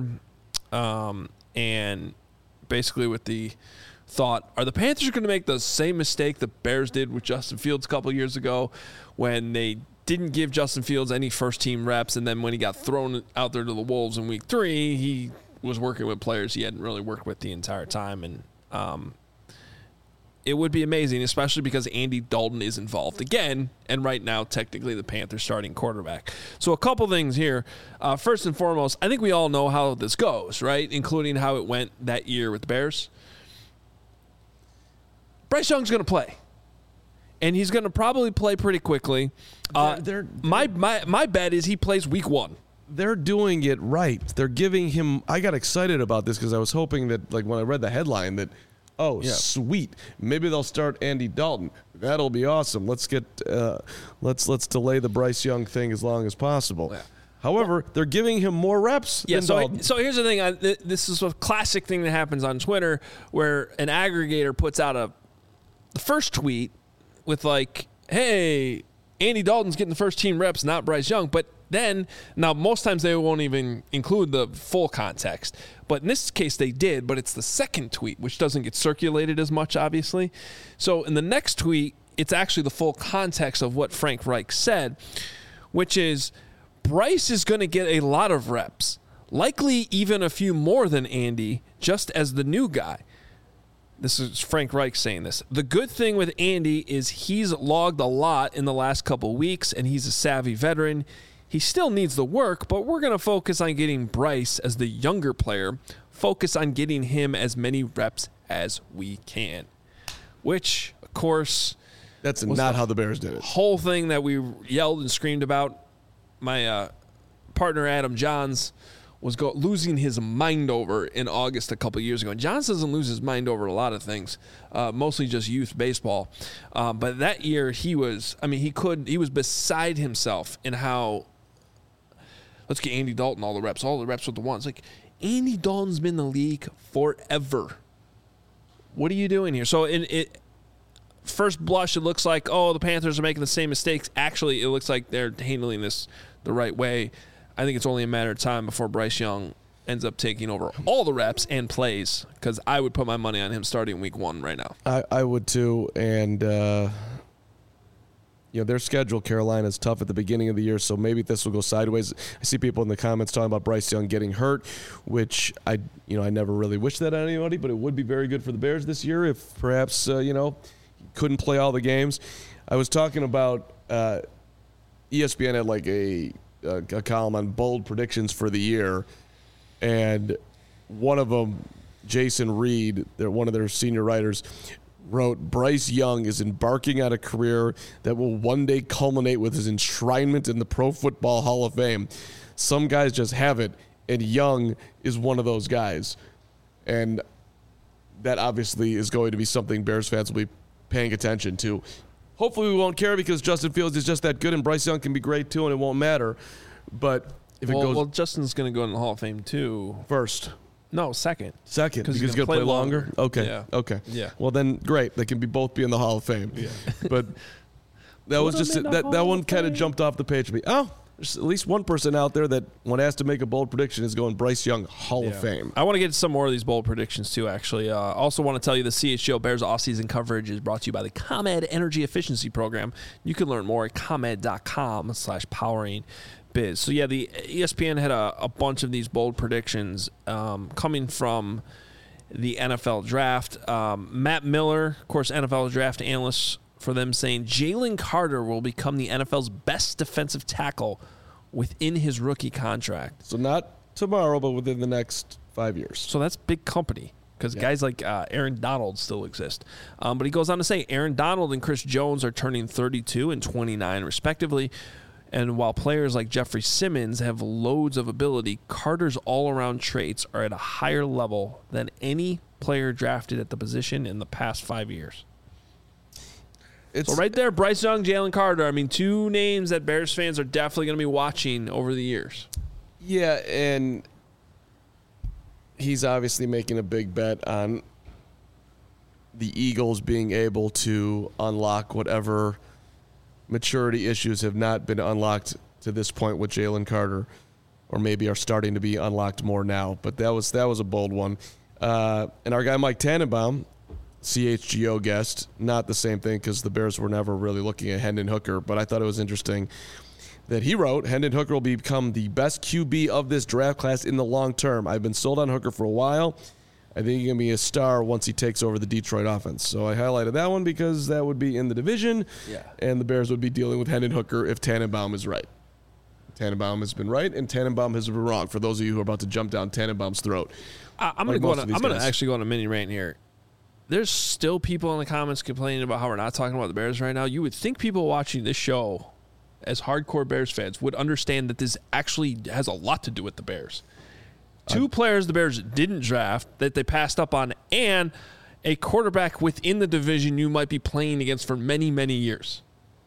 and basically with the thought, are the Panthers going to make the same mistake the Bears did with Justin Fields a couple of years ago when they didn't give Justin Fields any first-team reps, and then when he got thrown out there to the Wolves in Week 3, he was working with players he hadn't really worked with the entire time. And it would be amazing, especially because Andy Dalton is involved again, and right now, technically, the Panthers starting quarterback. So a couple things here. First and foremost, I think we all know how this goes, right, including how it went that year with the Bears. Bryce Young's going to play, and he's going to probably play pretty quickly. My bet is he plays Week 1. They're doing it right. They're giving him – I got excited about this because I was hoping that, like, when I read the headline that, sweet, maybe they'll start Andy Dalton. That'll be awesome. Let's get let's delay the Bryce Young thing as long as possible. Yeah. However, they're giving him more reps than Dalton. So here's the thing. This is a classic thing that happens on Twitter where an aggregator puts out the first tweet with like, hey, Andy Dalton's getting the first team reps, not Bryce Young. But then, now most times they won't even include the full context. But in this case they did, but it's the second tweet, which doesn't get circulated as much, obviously. So in the next tweet, it's actually the full context of what Frank Reich said, which is Bryce is going to get a lot of reps, likely even a few more than Andy, just as the new guy. This is Frank Reich saying this. The good thing with Andy is he's logged a lot in the last couple weeks, and he's a savvy veteran. He still needs the work, but we're going to focus on getting Bryce as the younger player, focus on getting him as many reps as we can, which, of course, that's not how the Bears did it. Whole thing that we yelled and screamed about. My partner, Adam Johns, was losing his mind over in August a couple years ago. And Johns doesn't lose his mind over a lot of things, mostly just youth baseball. But that year he was beside himself in how, let's get Andy Dalton all the reps with the ones. Like, Andy Dalton's been in the league forever. What are you doing here? So first blush, it looks like, the Panthers are making the same mistakes. Actually, it looks like they're handling this the right way. I think it's only a matter of time before Bryce Young ends up taking over all the reps and plays, because I would put my money on him starting Week 1 right now. I would too, and their schedule, Carolina, is tough at the beginning of the year, so maybe this will go sideways. I see people in the comments talking about Bryce Young getting hurt, which I never really wish that on anybody, but it would be very good for the Bears this year if perhaps couldn't play all the games. I was talking about ESPN had like a column on bold predictions for the year, and one of them, Jason Reed, one of their senior writers, wrote, Bryce Young is embarking on a career that will one day culminate with his enshrinement in the Pro Football Hall of Fame. Some guys just have it, and Young is one of those guys. And that obviously is going to be something Bears fans will be paying attention to. Hopefully we won't care because Justin Fields is just that good, and Bryce Young can be great too, and it won't matter. But if it goes... Well, Justin's going to go in the Hall of Fame too. First. No, second. Second, because he's going to play longer? Okay. Yeah. Okay. Yeah. Well, then, great. They can both be in the Hall of Fame. Yeah. But that was just... That one kind of jumped off the page for me. Oh, there's at least one person out there that, when asked to make a bold prediction, is going Bryce Young, Hall of Fame. I want to get to some more of these bold predictions, too, actually. Also want to tell you the CHGO Bears offseason coverage is brought to you by the ComEd Energy Efficiency Program. You can learn more at ComEd.com/powering biz. So, yeah, the ESPN had a bunch of these bold predictions coming from the NFL draft. Matt Miller, of course, NFL draft analyst for them, saying Jalen Carter will become the NFL's best defensive tackle within his rookie contract. So not tomorrow, but within the next 5 years. So that's big company. because guys like Aaron Donald still exist. But he goes on to say Aaron Donald and Chris Jones are turning 32 and 29 respectively. And while players like Jeffrey Simmons have loads of ability, Carter's all-around traits are at a higher level than any player drafted at the position in the past 5 years. So right there, Bryce Young, Jalen Carter. I mean, two names that Bears fans are definitely going to be watching over the years. Yeah, and he's obviously making a big bet on the Eagles being able to unlock whatever maturity issues have not been unlocked to this point with Jalen Carter, or maybe are starting to be unlocked more now. But that was a bold one. And our guy Mike Tannenbaum, CHGO guest, not the same thing because the Bears were never really looking at Hendon Hooker, but I thought it was interesting that he wrote, Hendon Hooker will become the best QB of this draft class in the long term. I've been sold on Hooker for a while. I think he's going to be a star once he takes over the Detroit offense. So I highlighted that one because that would be in the division, and the Bears would be dealing with Hendon Hooker if Tannenbaum is right. Tannenbaum has been right, and Tannenbaum has been wrong, for those of you who are about to jump down Tannenbaum's throat. I'm going to actually go on a mini rant here. There's still people in the comments complaining about how we're not talking about the Bears right now. You would think people watching this show as hardcore Bears fans would understand that this actually has a lot to do with the Bears. Two players the Bears didn't draft that they passed up on, and a quarterback within the division you might be playing against for many, many years.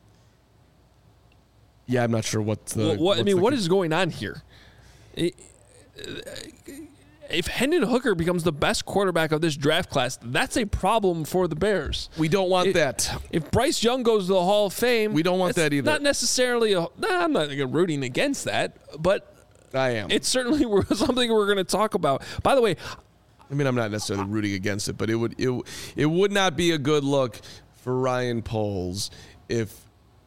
Yeah, I'm not sure what is going on here? If Hendon Hooker becomes the best quarterback of this draft class, that's a problem for the Bears. We don't want that. If Bryce Young goes to the Hall of Fame, we don't want that either. Not necessarily. I'm not rooting against that, but I am. It's certainly something we're going to talk about. By the way, I mean, I'm not necessarily rooting against it, but it would not be a good look for Ryan Poles if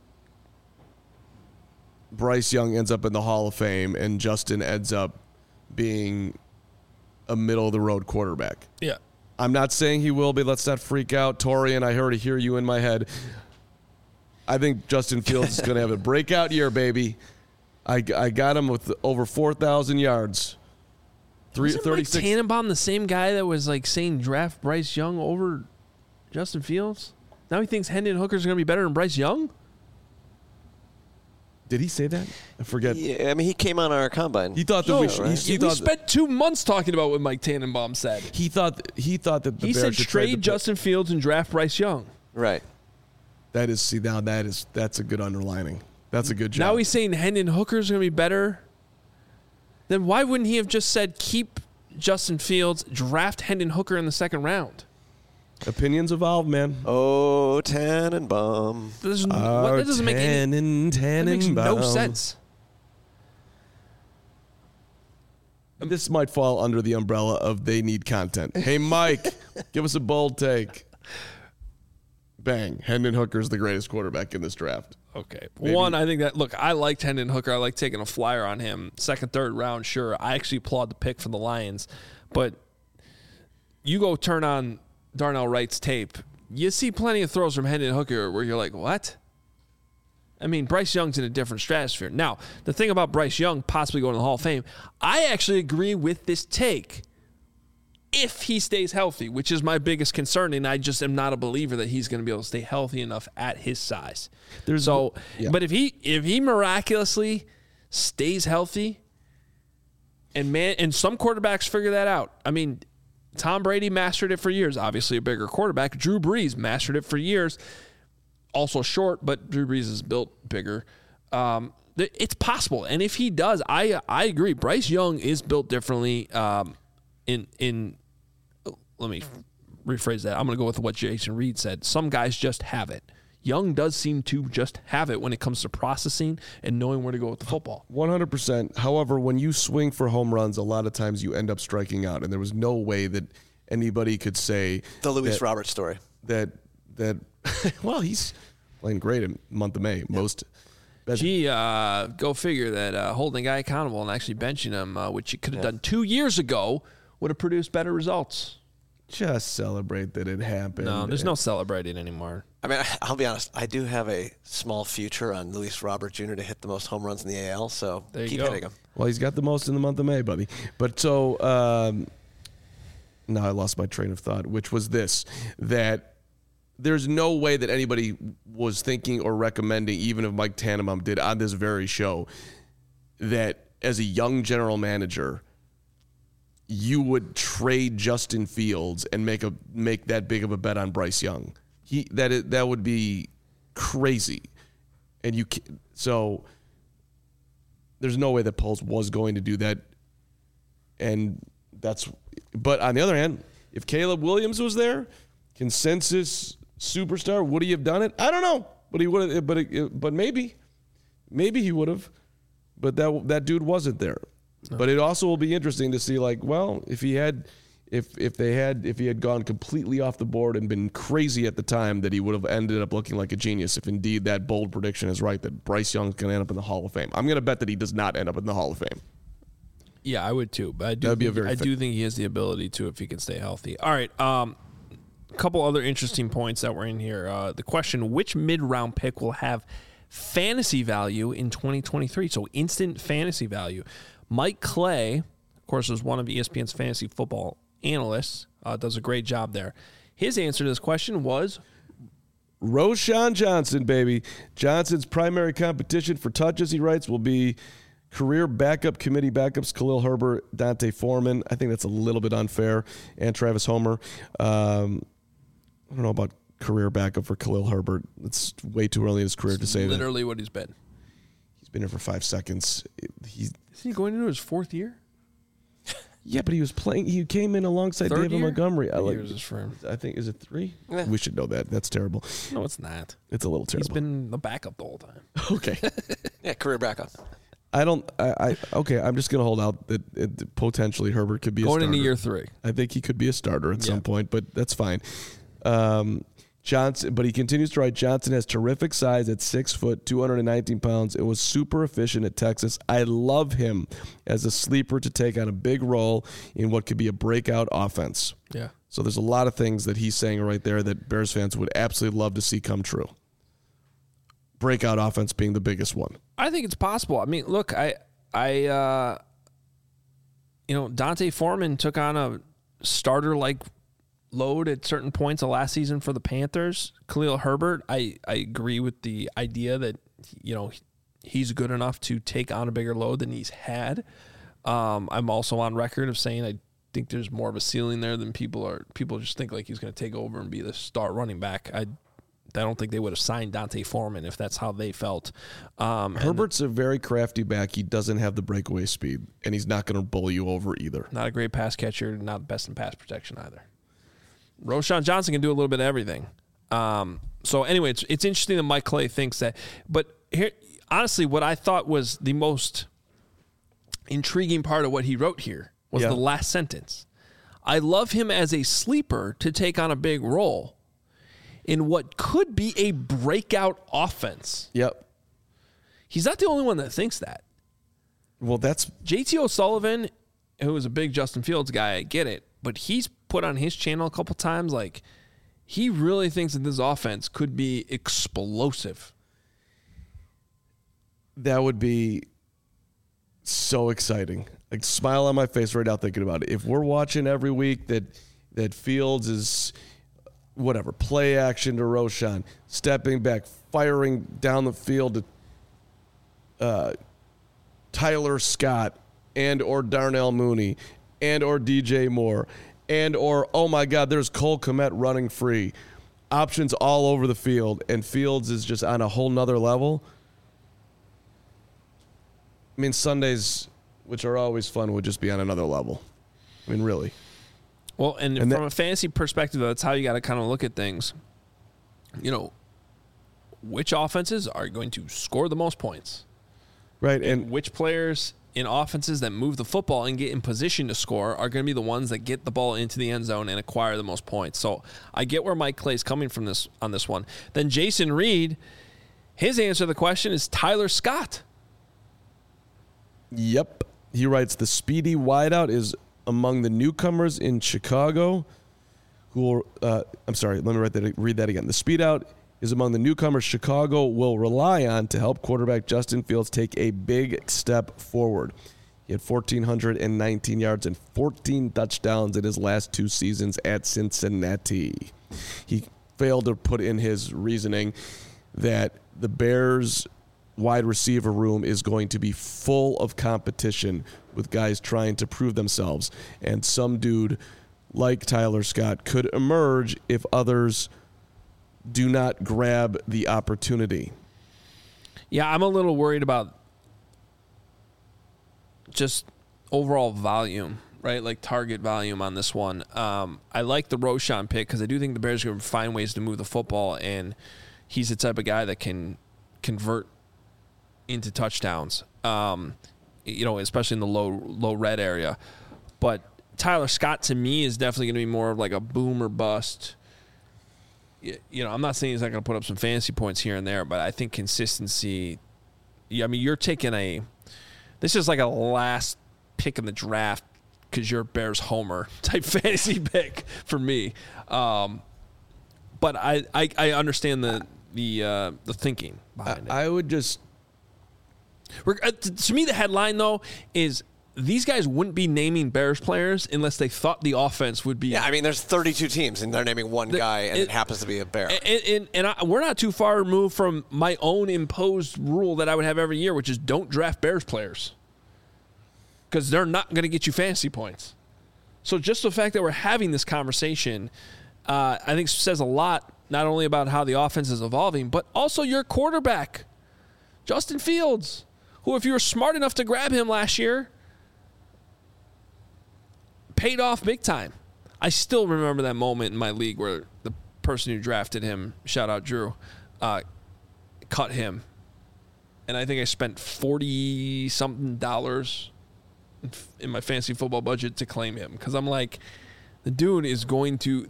Bryce Young ends up in the Hall of Fame and Justin ends up being a middle-of-the-road quarterback. Yeah. I'm not saying he will be. Let's not freak out. Torian, I already hear you in my head. I think Justin Fields is going to have a breakout year, baby. I got him with over 4,000 yards. Isn't Mike Tannenbaum the same guy that was like saying draft Bryce Young over Justin Fields? Now he thinks Hendon Hooker's going to be better than Bryce Young? Did he say that? I forget. Yeah, I mean, he came on our combine. He thought that we spent 2 months talking about what Mike Tannenbaum said. He thought that the Bears said trade Justin Fields and draft Bryce Young. Right. That's a good underlining. That's a good job. Now he's saying Hendon Hooker's going to be better. Then why wouldn't he have just said keep Justin Fields, draft Hendon Hooker in the second round? Opinions evolve, man. Oh, Tannenbaum. That doesn't make that makes no sense. This might fall under the umbrella of they need content. Hey, Mike, give us a bold take. Bang. Hendon Hooker's the greatest quarterback in this draft. Okay. Maybe. One, I think that, look, I liked Hendon Hooker. I like taking a flyer on him. Second, third round, sure. I actually applaud the pick for the Lions. But you go turn on Darnell Wright's tape, you see plenty of throws from Hendon Hooker where you're like, what? I mean, Bryce Young's in a different stratosphere. Now, the thing about Bryce Young possibly going to the Hall of Fame, I actually agree with this take if he stays healthy, which is my biggest concern, and I just am not a believer that he's going to be able to stay healthy enough at his size. But if he miraculously stays healthy, and some quarterbacks figure that out. I mean, Tom Brady mastered it for years. Obviously a bigger quarterback. Drew Brees mastered it for years. Also short, but Drew Brees is built bigger. It's possible. And if he does, I agree. Bryce Young is built differently. Let me rephrase that. I'm going to go with what Jason Reed said. Some guys just have it. Young does seem to just have it when it comes to processing and knowing where to go with the football. 100%. However, when you swing for home runs, a lot of times you end up striking out, and there was no way that anybody could say the Luis Roberts story. That well, he's playing great in the month of May. Yep. Go figure that holding a guy accountable and actually benching him, which you could have done 2 years ago, would have produced better results. Just celebrate that it happened. No, there's no celebrating anymore. I mean, I'll be honest. I do have a small future on Luis Robert Jr. to hit the most home runs in the AL, so keep hitting him. Well, he's got the most in the month of May, buddy. But so, now I lost my train of thought, which was this, that there's no way that anybody was thinking or recommending, even if Mike Tannenbaum did on this very show, that as a young general manager, you would trade Justin Fields and make that big of a bet on Bryce Young. That would be crazy. And so there's no way that Poles was going to do that. But on the other hand, if Caleb Williams was there, consensus superstar, would he have done it? I don't know, but he would have. But maybe he would have. But that dude wasn't there. No. But it also will be interesting to see, like, well, if he had gone completely off the board and been crazy at the time, that he would have ended up looking like a genius. If indeed that bold prediction is right, that Bryce Young's going to end up in the Hall of Fame. I'm going to bet that he does not end up in the Hall of Fame. Yeah, I would too. But I do think he has the ability to if he can stay healthy. All right. A couple other interesting points that were in here. The question: which mid-round pick will have fantasy value in 2023? So instant fantasy value. Mike Clay, of course, was one of ESPN's fantasy football analysts. Does a great job there. His answer to this question was Roschon Johnson, baby. Johnson's primary competition for touches, he writes, will be career backup committee backups Khalil Herbert, Dante Foreman. I think that's a little bit unfair. And Travis Homer. I don't know about career backup for Khalil Herbert. It's way too early in his career to say that. Literally what he's been. He's been here for 5 seconds. Isn't he going into his 4th year? Yeah, but he was playing. He came in alongside David Montgomery. Years is for him. I think, is it 3? Yeah. We should know that. That's terrible. No, it's not. It's a little terrible. He's been the backup the whole time. Okay. Yeah, career backup. Okay, I'm just going to hold out that potentially Herbert could be going a starter. Into year 3. I think he could be a starter at some point, but that's fine. Johnson, but he continues to write, Johnson has terrific size at 6 foot, 219 pounds, and was super efficient at Texas. I love him as a sleeper to take on a big role in what could be a breakout offense. Yeah. So there's a lot of things that he's saying right there that Bears fans would absolutely love to see come true. Breakout offense being the biggest one. I think it's possible. I mean, look, Dante Foreman took on a starter-like load at certain points of last season for the Panthers. Khalil Herbert, I agree with the idea that, he's good enough to take on a bigger load than he's had. I'm also on record of saying I think there's more of a ceiling there than people just think like he's going to take over and be the star running back. I don't think they would have signed Dante Foreman if that's how they felt. Herbert's a very crafty back. He doesn't have the breakaway speed, and he's not going to bowl you over either. Not a great pass catcher, not best in pass protection either. Roschon Johnson can do a little bit of everything. So anyway, it's interesting that Mike Clay thinks that. But here, honestly, what I thought was the most intriguing part of what he wrote here was the last sentence. I love him as a sleeper to take on a big role in what could be a breakout offense. Yep. He's not the only one that thinks that. Well, that's JT O'Sullivan, who is a big Justin Fields guy, I get it. But he's put on his channel a couple times, like, he really thinks that this offense could be explosive. That would be so exciting. Like, smile on my face right now thinking about it. If we're watching every week that Fields is, whatever, play action to Roschon, stepping back, firing down the field to Tyler Scott and or Darnell Mooney and or DJ Moore, and or, oh my God, there's Cole Kmet running free. Options all over the field, and Fields is just on a whole nother level. I mean, Sundays, which are always fun, would just be on another level. I mean, really. Well, and from a fantasy perspective, that's how you got to kind of look at things. Which offenses are going to score the most points? Right, and which players in offenses that move the football and get in position to score are going to be the ones that get the ball into the end zone and acquire the most points. So I get where Mike Clay's coming from on this one. Then Jason Reed, his answer to the question is Tyler Scott. Yep. He writes, the speedy wideout is among the newcomers in Chicago who will, let me read that again. The speed out is among the newcomers Chicago will rely on to help quarterback Justin Fields take a big step forward. He had 1,419 yards and 14 touchdowns in his last 2 seasons at Cincinnati. He failed to put in his reasoning that the Bears' wide receiver room is going to be full of competition with guys trying to prove themselves. And some dude like Tyler Scott could emerge if others do not grab the opportunity. Yeah, I'm a little worried about just overall volume, right? Like target volume on this one. I like the Roschon pick because I do think the Bears are going to find ways to move the football, and he's the type of guy that can convert into touchdowns, especially in the low red area. But Tyler Scott, to me, is definitely going to be more of like a boom or bust. I'm not saying he's not going to put up some fantasy points here and there, but I think consistency. You're taking this is like a last pick in the draft because you're a Bears homer type fantasy pick for me. But I understand the thinking behind it. I would just. To me, the headline though is these guys wouldn't be naming Bears players unless they thought the offense would be. Yeah, there's 32 teams, and they're naming one guy, and it happens to be a Bear. We're not too far removed from my own imposed rule that I would have every year, which is don't draft Bears players because they're not going to get you fantasy points. So just the fact that we're having this conversation, I think says a lot, not only about how the offense is evolving, but also your quarterback, Justin Fields, who, if you were smart enough to grab him last year, paid off big time. I still remember that moment in my league where the person who drafted him, shout out Drew, cut him. And I think I spent $40-something in my fantasy football budget to claim him. Because I'm like, the dude is going to...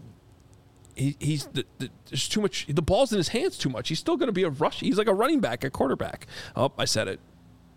there's too much... The ball's in his hands too much. He's still going to be a rush. He's like a running back, a quarterback. Oh, I said it.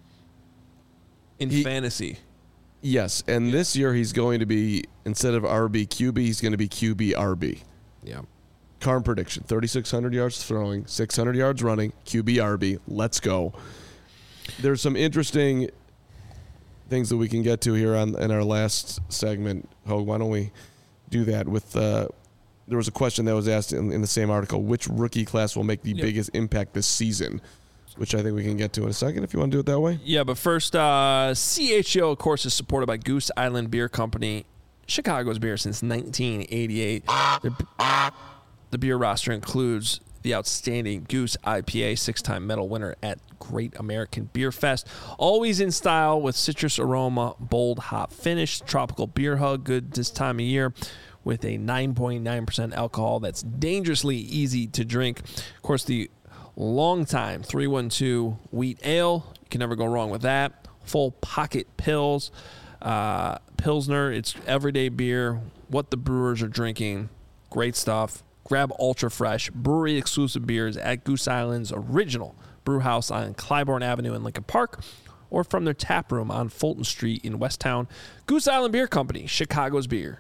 In fantasy. Yes, and this year he's going to be, instead of RB QB, he's going to be QB RB. Yeah. Carm prediction, 3,600 yards throwing, 600 yards running, QB RB. Let's go. There's some interesting things that we can get to here in our last segment. Hogue, why don't we do that with there was a question that was asked in the same article, which rookie class will make the biggest impact this season? Which I think we can get to in a second if you want to do it that way. Yeah, but first, CHGO, of course, is supported by Goose Island Beer Company, Chicago's beer since 1988. The beer roster includes the outstanding Goose IPA, 6-time medal winner at Great American Beer Fest. Always in style with citrus aroma, bold hop finish, tropical beer hug, good this time of year, with a 9.9% alcohol that's dangerously easy to drink. Of course, the long time 312 wheat ale, you can never go wrong with that. Full pocket pills, Pilsner, it's everyday beer, what the brewers are drinking, great stuff. Grab ultra fresh brewery exclusive beers at Goose Island's original brew house on Clybourne Avenue in Lincoln Park, or from their tap room on Fulton Street in Westtown. Goose Island Beer Company, Chicago's beer.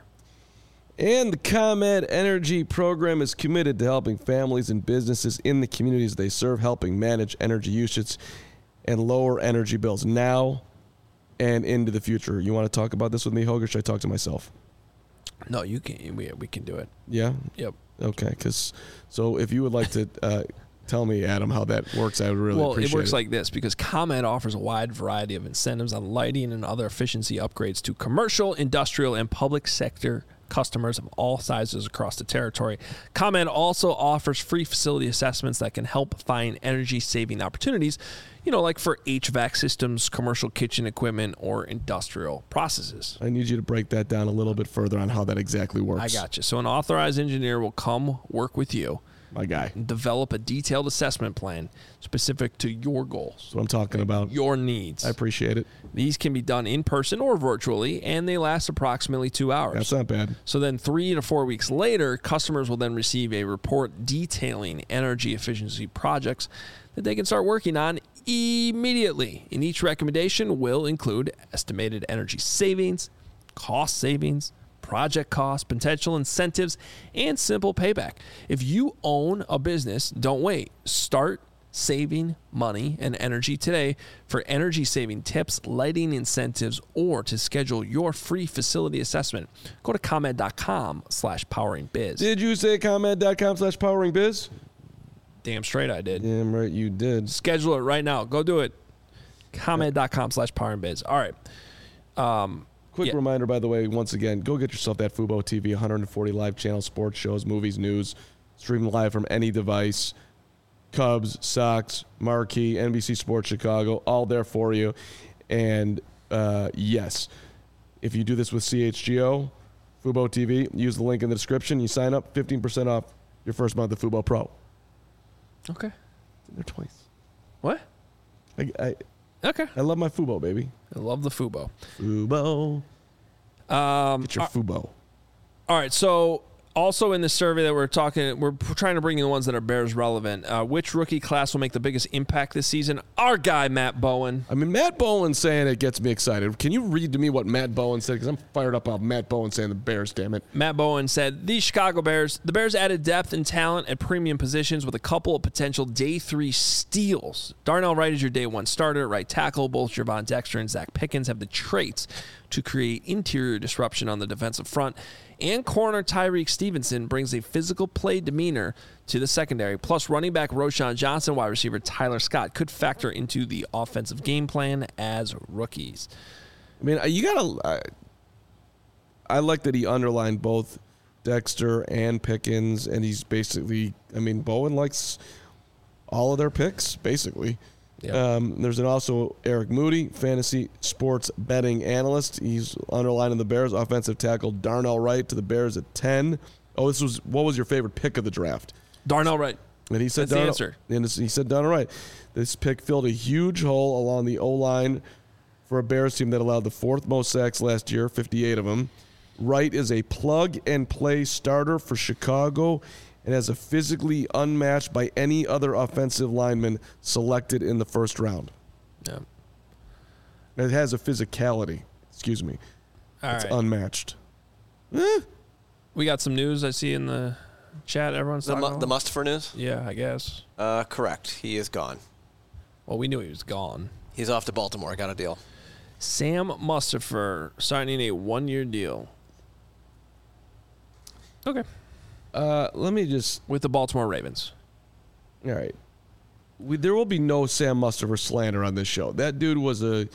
And the ComEd Energy Program is committed to helping families and businesses in the communities they serve, helping manage energy usage and lower energy bills now and into the future. You want to talk about this with me, Hogue, or should I talk to myself? No, you can. We can do it. Yeah? Yep. Okay, so if you would like to tell me, Adam, how that works, I would really appreciate it. Well, it works like this, because ComEd offers a wide variety of incentives on lighting and other efficiency upgrades to commercial, industrial, and public sector customers of all sizes across the territory. ComEd also offers free facility assessments that can help find energy-saving opportunities, like for HVAC systems, commercial kitchen equipment, or industrial processes. I need you to break that down a little bit further on how that exactly works. I got you. So an authorized engineer will come work with you, my guy, and develop a detailed assessment plan specific to your goals. That's what I'm talking about. Your needs. I appreciate it. These can be done in person or virtually, and they last approximately 2 hours. That's not bad. So then 3 to 4 weeks later, customers will then receive a report detailing energy efficiency projects that they can start working on immediately. And each recommendation will include estimated energy savings, cost savings, project costs, potential incentives, and simple payback. If you own a business, don't wait. Start saving money and energy today. For energy-saving tips, lighting incentives, or to schedule your free facility assessment, go to ComEd.com/poweringbiz. Did you say ComEd.com/poweringbiz? Damn straight I did. Damn right you did. Schedule it right now. Go do it. ComEd.com/poweringbiz. All right. Quick reminder, by the way, once again, go get yourself that Fubo TV, 140 live channel sports shows, movies, news, streaming live from any device. Cubs, Sox, Marquee, NBC Sports Chicago, all there for you. And yes, if you do this with CHGO, Fubo TV, use the link in the description. You sign up, 15% off your first month of Fubo Pro. Okay. It's in there twice. What? I Okay. love my Fubo, baby. I love the Fubo. Fubo. Get your Fubo. All right, so also in the survey that we're trying to bring in the ones that are Bears relevant. Which rookie class will make the biggest impact this season? Our guy, Matt Bowen. I mean, Matt Bowen saying it gets me excited. Can you read to me what Matt Bowen said? Because I'm fired up about Matt Bowen saying the Bears, damn it. Matt Bowen said, the Chicago Bears, the Bears added depth and talent at premium positions with a couple of potential day 3 steals. Darnell Wright is your day 1 starter at right tackle. Both Javon Dexter and Zach Pickens have the traits to create interior disruption on the defensive front. And corner Tyreek Stevenson brings a physical play demeanor to the secondary. Plus, running back Roschon Johnson, wide receiver Tyler Scott could factor into the offensive game plan as rookies. I mean, I like that he underlined both Dexter and Pickens, and he's basically, I mean, Bowen likes all of their picks, basically. Yep. There's also Eric Moody, fantasy sports betting analyst. He's underlining the Bears offensive tackle Darnell Wright to the Bears at 10. Oh, what was your favorite pick of the draft? Darnell Wright. And he said That's the answer. And he said Darnell Wright. This pick filled a huge hole along the O-line for a Bears team that allowed the 4th most sacks last year, 58 of them. Wright is a plug-and-play starter for Chicago and has a physically unmatched by any other offensive lineman selected in the first round. Yeah. It has a physicality. Excuse me. It's unmatched. We got some news I see in the chat. Everyone's talking about The Mustapher news? Yeah, I guess. Correct. He is gone. Well, we knew he was gone. He's off to Baltimore. Got a deal. Sam Mustapher signing a 1-year deal. Okay. Let me just... With the Baltimore Ravens. All right. There will be no Sam Mustapher slander on this show. That dude was a...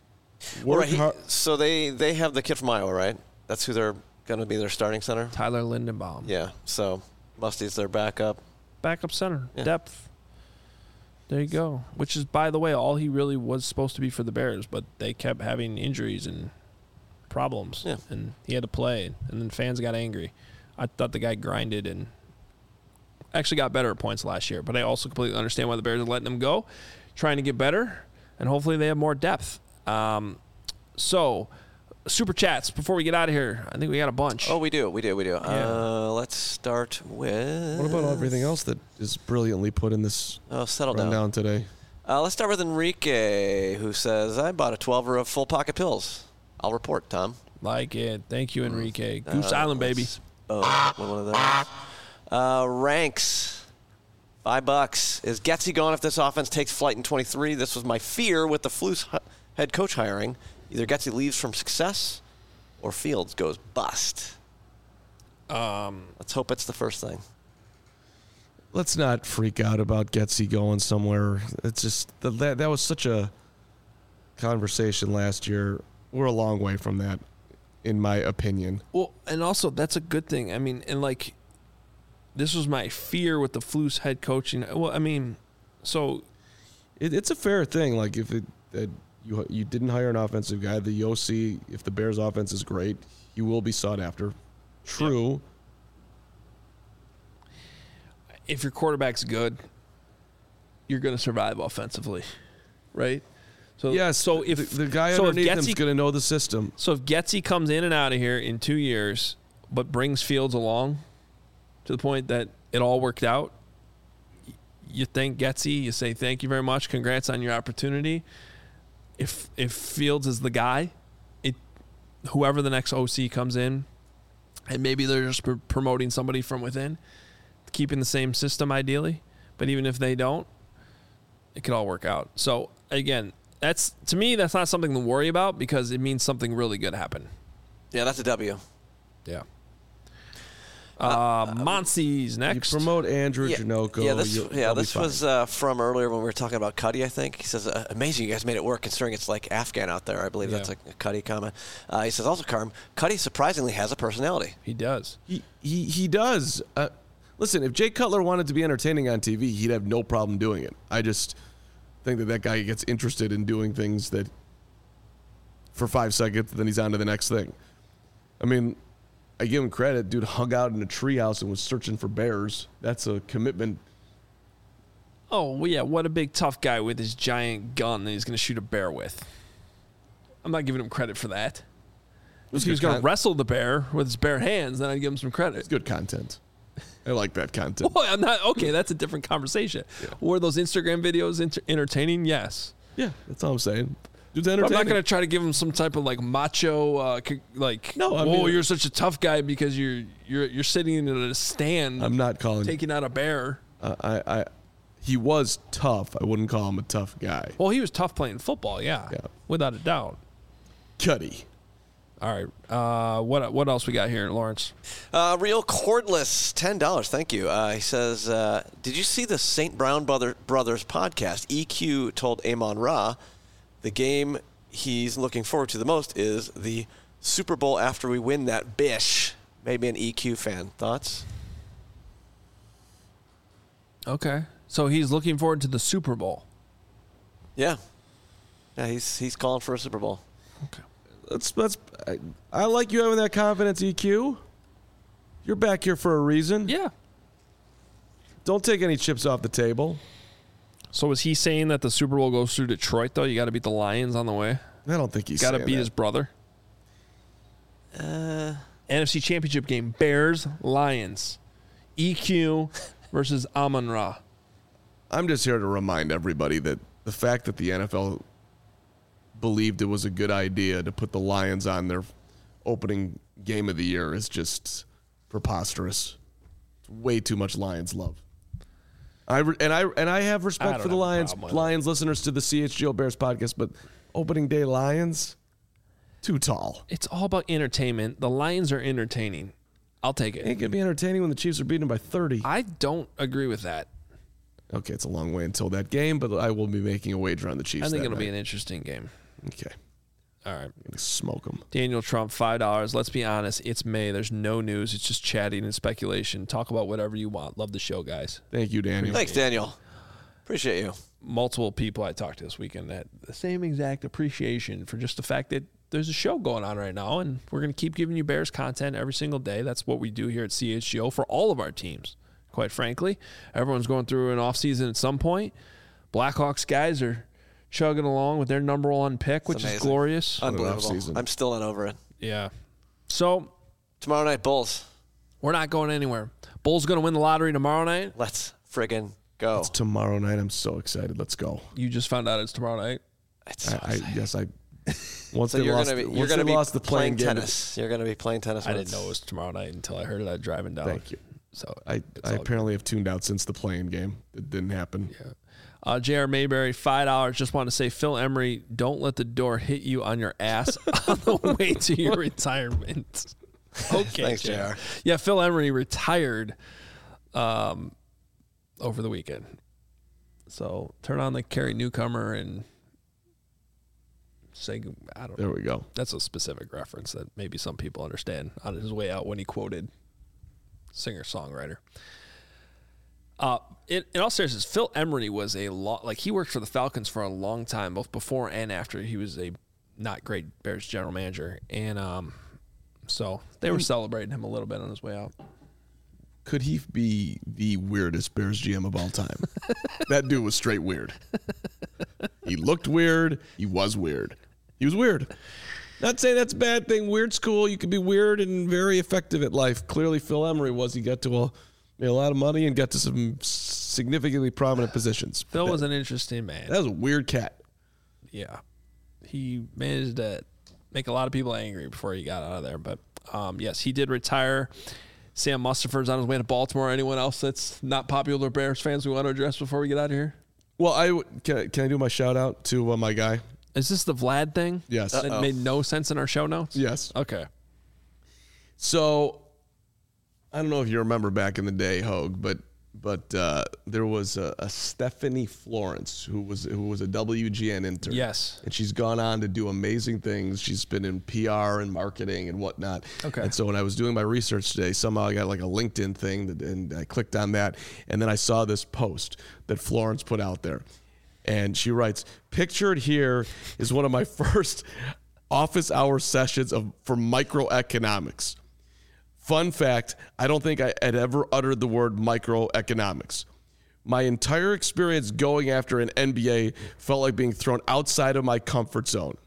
So they have the kid from Iowa, right? That's who they're going to be their starting center? Tyler Lindenbaum. Yeah. So Musty's their backup. Backup center. Yeah. Depth. There you go. Which is, by the way, all he really was supposed to be for the Bears, but they kept having injuries and problems. Yeah. And he had to play, and then fans got angry. I thought the guy grinded and actually got better at points last year, but I also completely understand why the Bears are letting him go, trying to get better, and hopefully they have more depth. So, super chats before we get out of here. I think we got a bunch. Oh, we do. Yeah. Let's start with... What about everything else that is brilliantly put in this settle down rundown today? Let's start with Enrique, who says, I bought a 12er of full pocket pills. I'll report, Tom. Like it. Thank you, Enrique. Goose Island, baby. One of those. Ranks, $5. Is Getsy gone if this offense takes flight in 23? This was my fear with the Flus head coach hiring. Either Getsy leaves from success or Fields goes bust. Let's hope it's the first thing. Let's not freak out about Getsy going somewhere. It's just that was such a conversation last year. We're a long way from that, in my opinion. Well, and also that's a good thing. I mean, and like, this was my fear with the Flus head coaching. Well, I mean, so it's a fair thing. Like if you didn't hire an offensive guy, the OC, if the Bears' offense is great, he will be sought after. True. Yep. If your quarterback's good, you're going to survive offensively, right? So yes. So if the guy underneath him is going to know the system. So if Getsy comes in and out of here in 2 years, but brings Fields along to the point that it all worked out, you thank Getsy. You say thank you very much. Congrats on your opportunity. If Fields is the guy, whoever the next OC comes in, and maybe they're just promoting somebody from within, keeping the same system ideally. But even if they don't, it could all work out. So again, that's to me, that's not something to worry about because it means something really good happened. Yeah, that's a W. Yeah. Monsi's next. You promote Andrew Janoko. This was from earlier when we were talking about Cuddy, I think. He says, amazing you guys made it work considering it's like Afghan out there. I believe that's a Cuddy comment. He says, also, Carm, Cuddy surprisingly has a personality. He does. He does. Listen, if Jay Cutler wanted to be entertaining on TV, he'd have no problem doing it. I just think that guy gets interested in doing things that for 5 seconds, then he's on to the next thing. I mean, I give him credit. Dude hung out in a treehouse and was searching for bears. That's a commitment. Oh, well, yeah, what a big tough guy with his giant gun that he's going to shoot a bear with. I'm not giving him credit for that. If he was going to wrestle the bear with his bare hands, then I'd give him some credit. It's good content. I like that content. Well, I'm not okay. That's a different conversation. Yeah. Were those Instagram videos entertaining? Yes. Yeah, that's all I'm saying. Dude's entertaining. I'm not going to try to give him some type of like macho, you're such a tough guy because you're sitting in a stand. I'm not calling taking out a bear. He was tough. I wouldn't call him a tough guy. Well, he was tough playing football. Yeah, without a doubt. Cuddy. All right. What else we got here, Lawrence? Real Cordless, $10. Thank you. He says, did you see the St. Brown Brothers podcast? EQ told Amon Ra the game he's looking forward to the most is the Super Bowl after we win that bish. Maybe an EQ fan. Thoughts? Okay. So he's looking forward to the Super Bowl. Yeah. Yeah, he's calling for a Super Bowl. Okay. I like you having that confidence, EQ. You're back here for a reason. Yeah. Don't take any chips off the table. So is he saying that the Super Bowl goes through Detroit, though? You got to beat the Lions on the way? I don't think he's got to beat his brother. NFC Championship game, Bears, Lions. EQ versus Amon-Ra. I'm just here to remind everybody that the fact that the NFL believed it was a good idea to put the Lions on their opening game of the year is just preposterous. It's way too much Lions love. I have respect for the Lions listeners to the CHGO Bears podcast, but opening day Lions, too tall. It's all about entertainment. The Lions are entertaining. I'll take it. It ain't gonna be entertaining when the Chiefs are beating them by 30. I don't agree with that. Okay, it's a long way until that game, but I will be making a wager on the Chiefs. I think it'll be an interesting game. Okay. All right. Smoke them. Daniel Trump, $5. Let's be honest. It's May. There's no news. It's just chatting and speculation. Talk about whatever you want. Love the show, guys. Thank you, Daniel. Thanks, Daniel. Appreciate you. Multiple people I talked to this weekend had the same exact appreciation for just the fact that there's a show going on right now, and we're going to keep giving you Bears content every single day. That's what we do here at CHGO for all of our teams, quite frankly. Everyone's going through an offseason at some point. Blackhawks guys are chugging along with their number one pick, which is glorious. Unbelievable. I'm still not over it. Yeah. So tomorrow night, Bulls. We're not going anywhere. Bulls going to win the lottery tomorrow night. Let's friggin' go. It's tomorrow night. I'm so excited. Let's go. You just found out it's tomorrow night. Yes, I. Once so they you're lost, you're going to be lost the playing tennis. You're going to be playing tennis. I didn't know it was tomorrow night until I heard it. I was driving down. Thank you. So I apparently have tuned out since the playing game. It didn't happen. Yeah. J.R. Mayberry, $5. Just want to say, Phil Emery, don't let the door hit you on your ass on the way to your retirement. Okay, thanks, J.R. Yeah, Phil Emery retired over the weekend. So turn on the Carrie Newcomer and say, I don't know. There we go. That's a specific reference that maybe some people understand on his way out when he quoted singer-songwriter. In all seriousness, Phil Emery was he worked for the Falcons for a long time, both before and after he was a not great Bears general manager. And so they were celebrating him a little bit on his way out. Could he be the weirdest Bears GM of all time? That dude was straight weird. He looked weird. He was weird. He was weird. Not saying that's a bad thing. Weird's cool. You could be weird and very effective at life. Clearly, Phil Emery was. He got to made a lot of money and got to some significantly prominent positions. Phil was an interesting man. That was a weird cat. Yeah. He managed to make a lot of people angry before he got out of there. But, yes, he did retire. Sam Mustipher's on his way to Baltimore. Anyone else that's not popular Bears fans we want to address before we get out of here? Well, can I do my shout out to my guy? Is this the Vlad thing? Yes. That made no sense in our show notes? Yes. Okay. So, I don't know if you remember back in the day, Hogue, but there was a Stephanie Florence who was a WGN intern. Yes. And she's gone on to do amazing things. She's been in PR and marketing and whatnot. Okay. And so when I was doing my research today, somehow I got like a LinkedIn thing and I clicked on that, and then I saw this post that Florence put out there. And she writes, "Pictured here is one of my first office hour sessions for microeconomics. Fun fact, I don't think I had ever uttered the word microeconomics. My entire experience going after an MBA felt like being thrown outside of my comfort zone.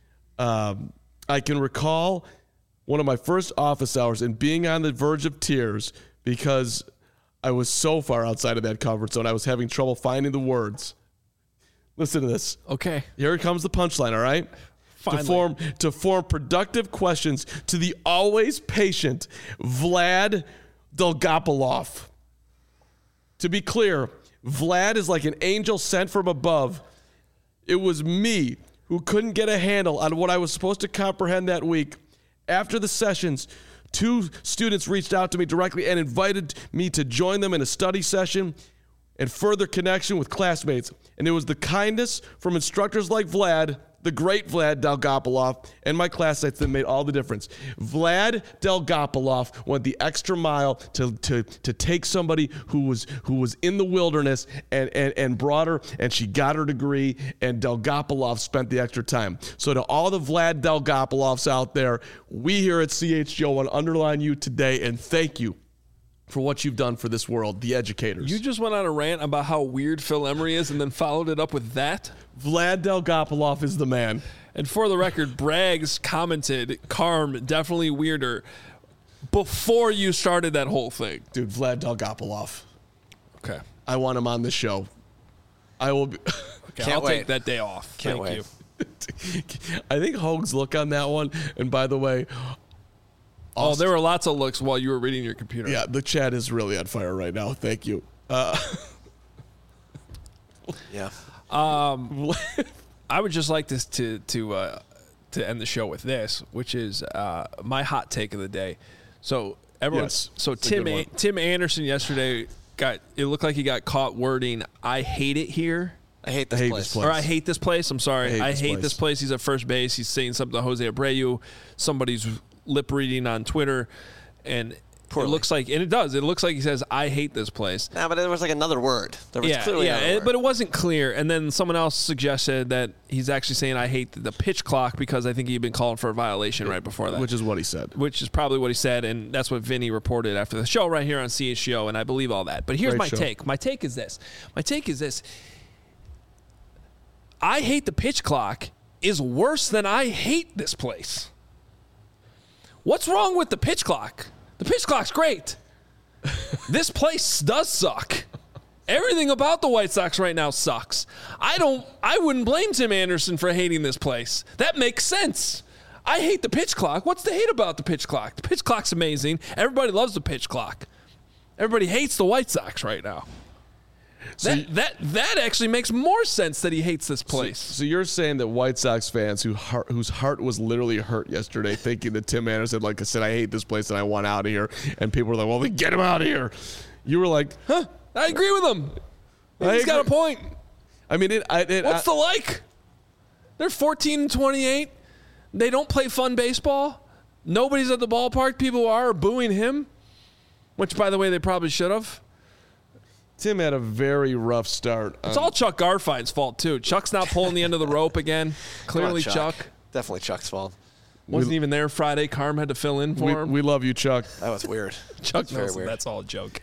I can recall one of my first office hours and being on the verge of tears because I was so far outside of that comfort zone. I was having trouble finding the words." Listen to this. Okay. Here comes the punchline, all right? Finally. To form productive questions to the always patient Vlad Dolgopolov. To be clear, Vlad is like an angel sent from above. It was me who couldn't get a handle on what I was supposed to comprehend that week. After the sessions, 2 students reached out to me directly and invited me to join them in a study session and further connection with classmates. And it was the kindness from instructors like Vlad, the great Vlad Dolgopolov, and my classmates that made all the difference. Vlad Dolgopolov went the extra mile to take somebody who was in the wilderness and brought her, and she got her degree, and Dolgopolov spent the extra time. So to all the Vlad Dolgopolovs out there, we here at CHGO want to underline you today and thank you for what you've done for this world, the educators. You just went on a rant about how weird Phil Emery is and then followed it up with that? Vlad Dolgopolov is the man. And for the record, Braggs commented, Carm, definitely weirder, before you started that whole thing. Dude, Vlad Dolgopolov. Okay. I want him on the show. I will be. Okay, I'll take that day off. Can't Thank wait. you. I think Hogue's look on that one, and by the way, Oh, there were lots of looks while you were reading your computer. yeah, the chat is really on fire right now. Thank you. Yeah. I would just like this to end the show with this, which is my hot take of the day. So everyone, Yes, so it's a good one. Tim Anderson yesterday it looked like he got caught wording, "I hate it here." I hate this place. Or I hate this place. I'm sorry. I hate this place. place. He's at first base. He's saying something to Jose Abreu. Somebody's lip reading on Twitter, and Poorly. it looks like, and it does. It looks like he says, "I hate this place." Nah, but there was like another word. There was clearly another word. But it wasn't clear. And then someone else suggested that he's actually saying, "I hate the pitch clock," because I think he'd been calling for a violation right before that. Which is what he said. Which is probably what he said, and that's what Vinny reported after the show right here on CHGO, and I believe all that. But here's Great my show. take. My take is this. I hate the pitch clock is worse than I hate this place. What's wrong with the pitch clock? The pitch clock's great. This place does suck. Everything about the White Sox right now sucks. I wouldn't blame Tim Anderson for hating this place. That makes sense. I hate the pitch clock. What's to hate about the pitch clock? The pitch clock's amazing. Everybody loves the pitch clock. Everybody hates the White Sox right now. That actually makes more sense that he hates this place. So you're saying that White Sox fans whose heart was literally hurt yesterday, thinking that Tim Anderson, like I said, I hate this place and I want out of here, and people were like, "Well, then get him out of here." You were like, Huh? I agree with him. He's got a point. I mean, What's the like? They're 14-28. They don't play fun baseball. Nobody's at the ballpark. People are booing him, which, by the way, they probably should have. Tim had a very rough start. It's all Chuck Garfine's fault, too. Chuck's not pulling the end of the rope again. Clearly, Come on, Chuck. Definitely Chuck's fault. Wasn't even there Friday. Carm had to fill in for him. We love you, Chuck. That was weird. Chuck That's very Nelson, weird. that's all a joke.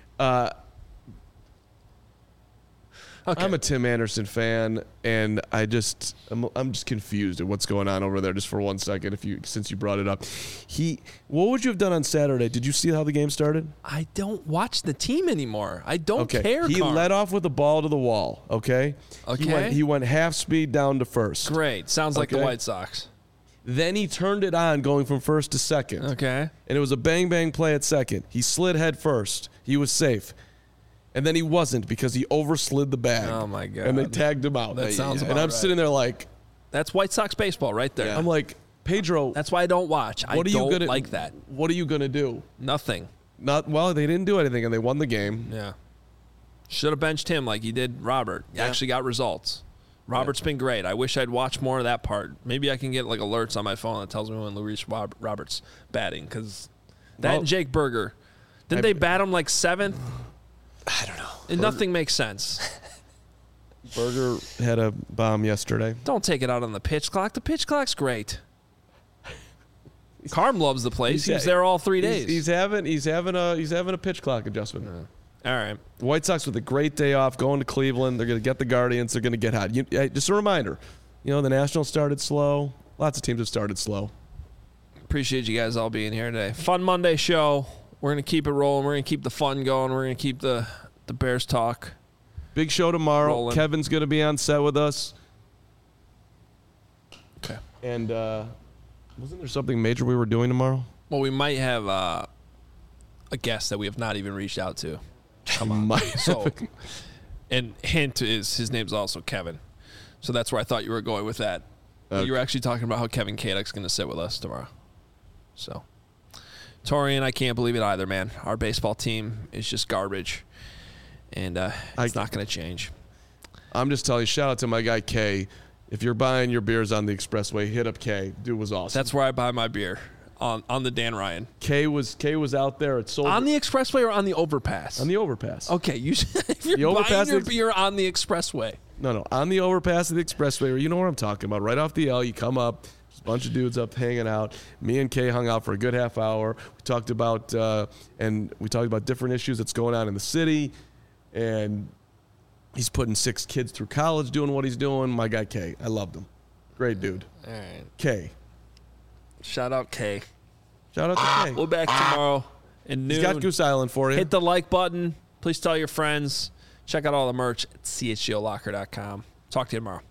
Okay. I'm a Tim Anderson fan, and I'm just confused at what's going on over there. Just for 1 second, since you brought it up, what would you have done on Saturday? Did you see how the game started? I don't watch the team anymore. I don't care. He Carm. led off with the ball to the wall. Okay. Okay. He went half speed down to first. Great. Sounds like the Okay. White Sox. Then he turned it on, going from first to second. Okay. And it was a bang bang play at second. He slid head first. He was safe. And then he wasn't because he overslid the bag. Oh, my God. And they tagged him out. That sounds about And I'm right. sitting there like, That's White Sox baseball right there. I'm like, Pedro, That's why I don't watch. I don't like that. What are you going to do? Nothing. Well, they didn't do anything, and they won the game. Yeah. Should have benched him like he did Robert. He actually got results. Robert's been great. I wish I'd watched more of that part. Maybe I can get like alerts on my phone that tells me when Luis Robert's batting, because that and Jake Berger. Didn't they bat him like 7th? I don't know. And nothing makes sense. Berger had a bomb yesterday. Don't take it out on the pitch clock. The pitch clock's great. Carm loves the place. He was there all 3 days. He's having a pitch clock adjustment. All right. The White Sox with a great day off, going to Cleveland. They're going to get the Guardians. They're going to get hot. Just a reminder, the Nationals started slow. Lots of teams have started slow. Appreciate you guys all being here today. Fun Monday show. We're going to keep it rolling. We're going to keep the fun going. We're going to keep the Bears talk. Big show tomorrow. Rolling. Kevin's going to be on set with us. Okay. And wasn't there something major we were doing tomorrow? Well, we might have a guest that we have not even reached out to. Come on. So, and hint is his name's also Kevin. So that's where I thought you were going with that. Okay. You were actually talking about how Kevin Kadek's going to sit with us tomorrow. So, Torian, I can't believe it either, man. Our baseball team is just garbage. And it's not going to change. I'm just telling you, shout out to my guy Kay. If you're buying your beers on the expressway, hit up Kay. Dude was awesome. That's where I buy my beer, on the Dan Ryan. Kay was out there at Soldier. On the expressway or on the overpass? On the overpass. Okay, if you're The overpass buying your beer on the expressway. No, on the overpass of the expressway. You know what I'm talking about. Right off the L, you come up. There's a bunch of dudes up hanging out. Me and Kay hung out for a good half hour. We talked about different issues that's going on in the city, and he's putting 6 kids through college doing what he's doing. My guy Kay, I loved him. Great dude. All right. Kay. Shout out Kay. Shout out to Kay. We'll be back tomorrow at noon. He's got Goose Island for you. Hit the like button. Please tell your friends. Check out all the merch at chgolocker.com. Talk to you tomorrow.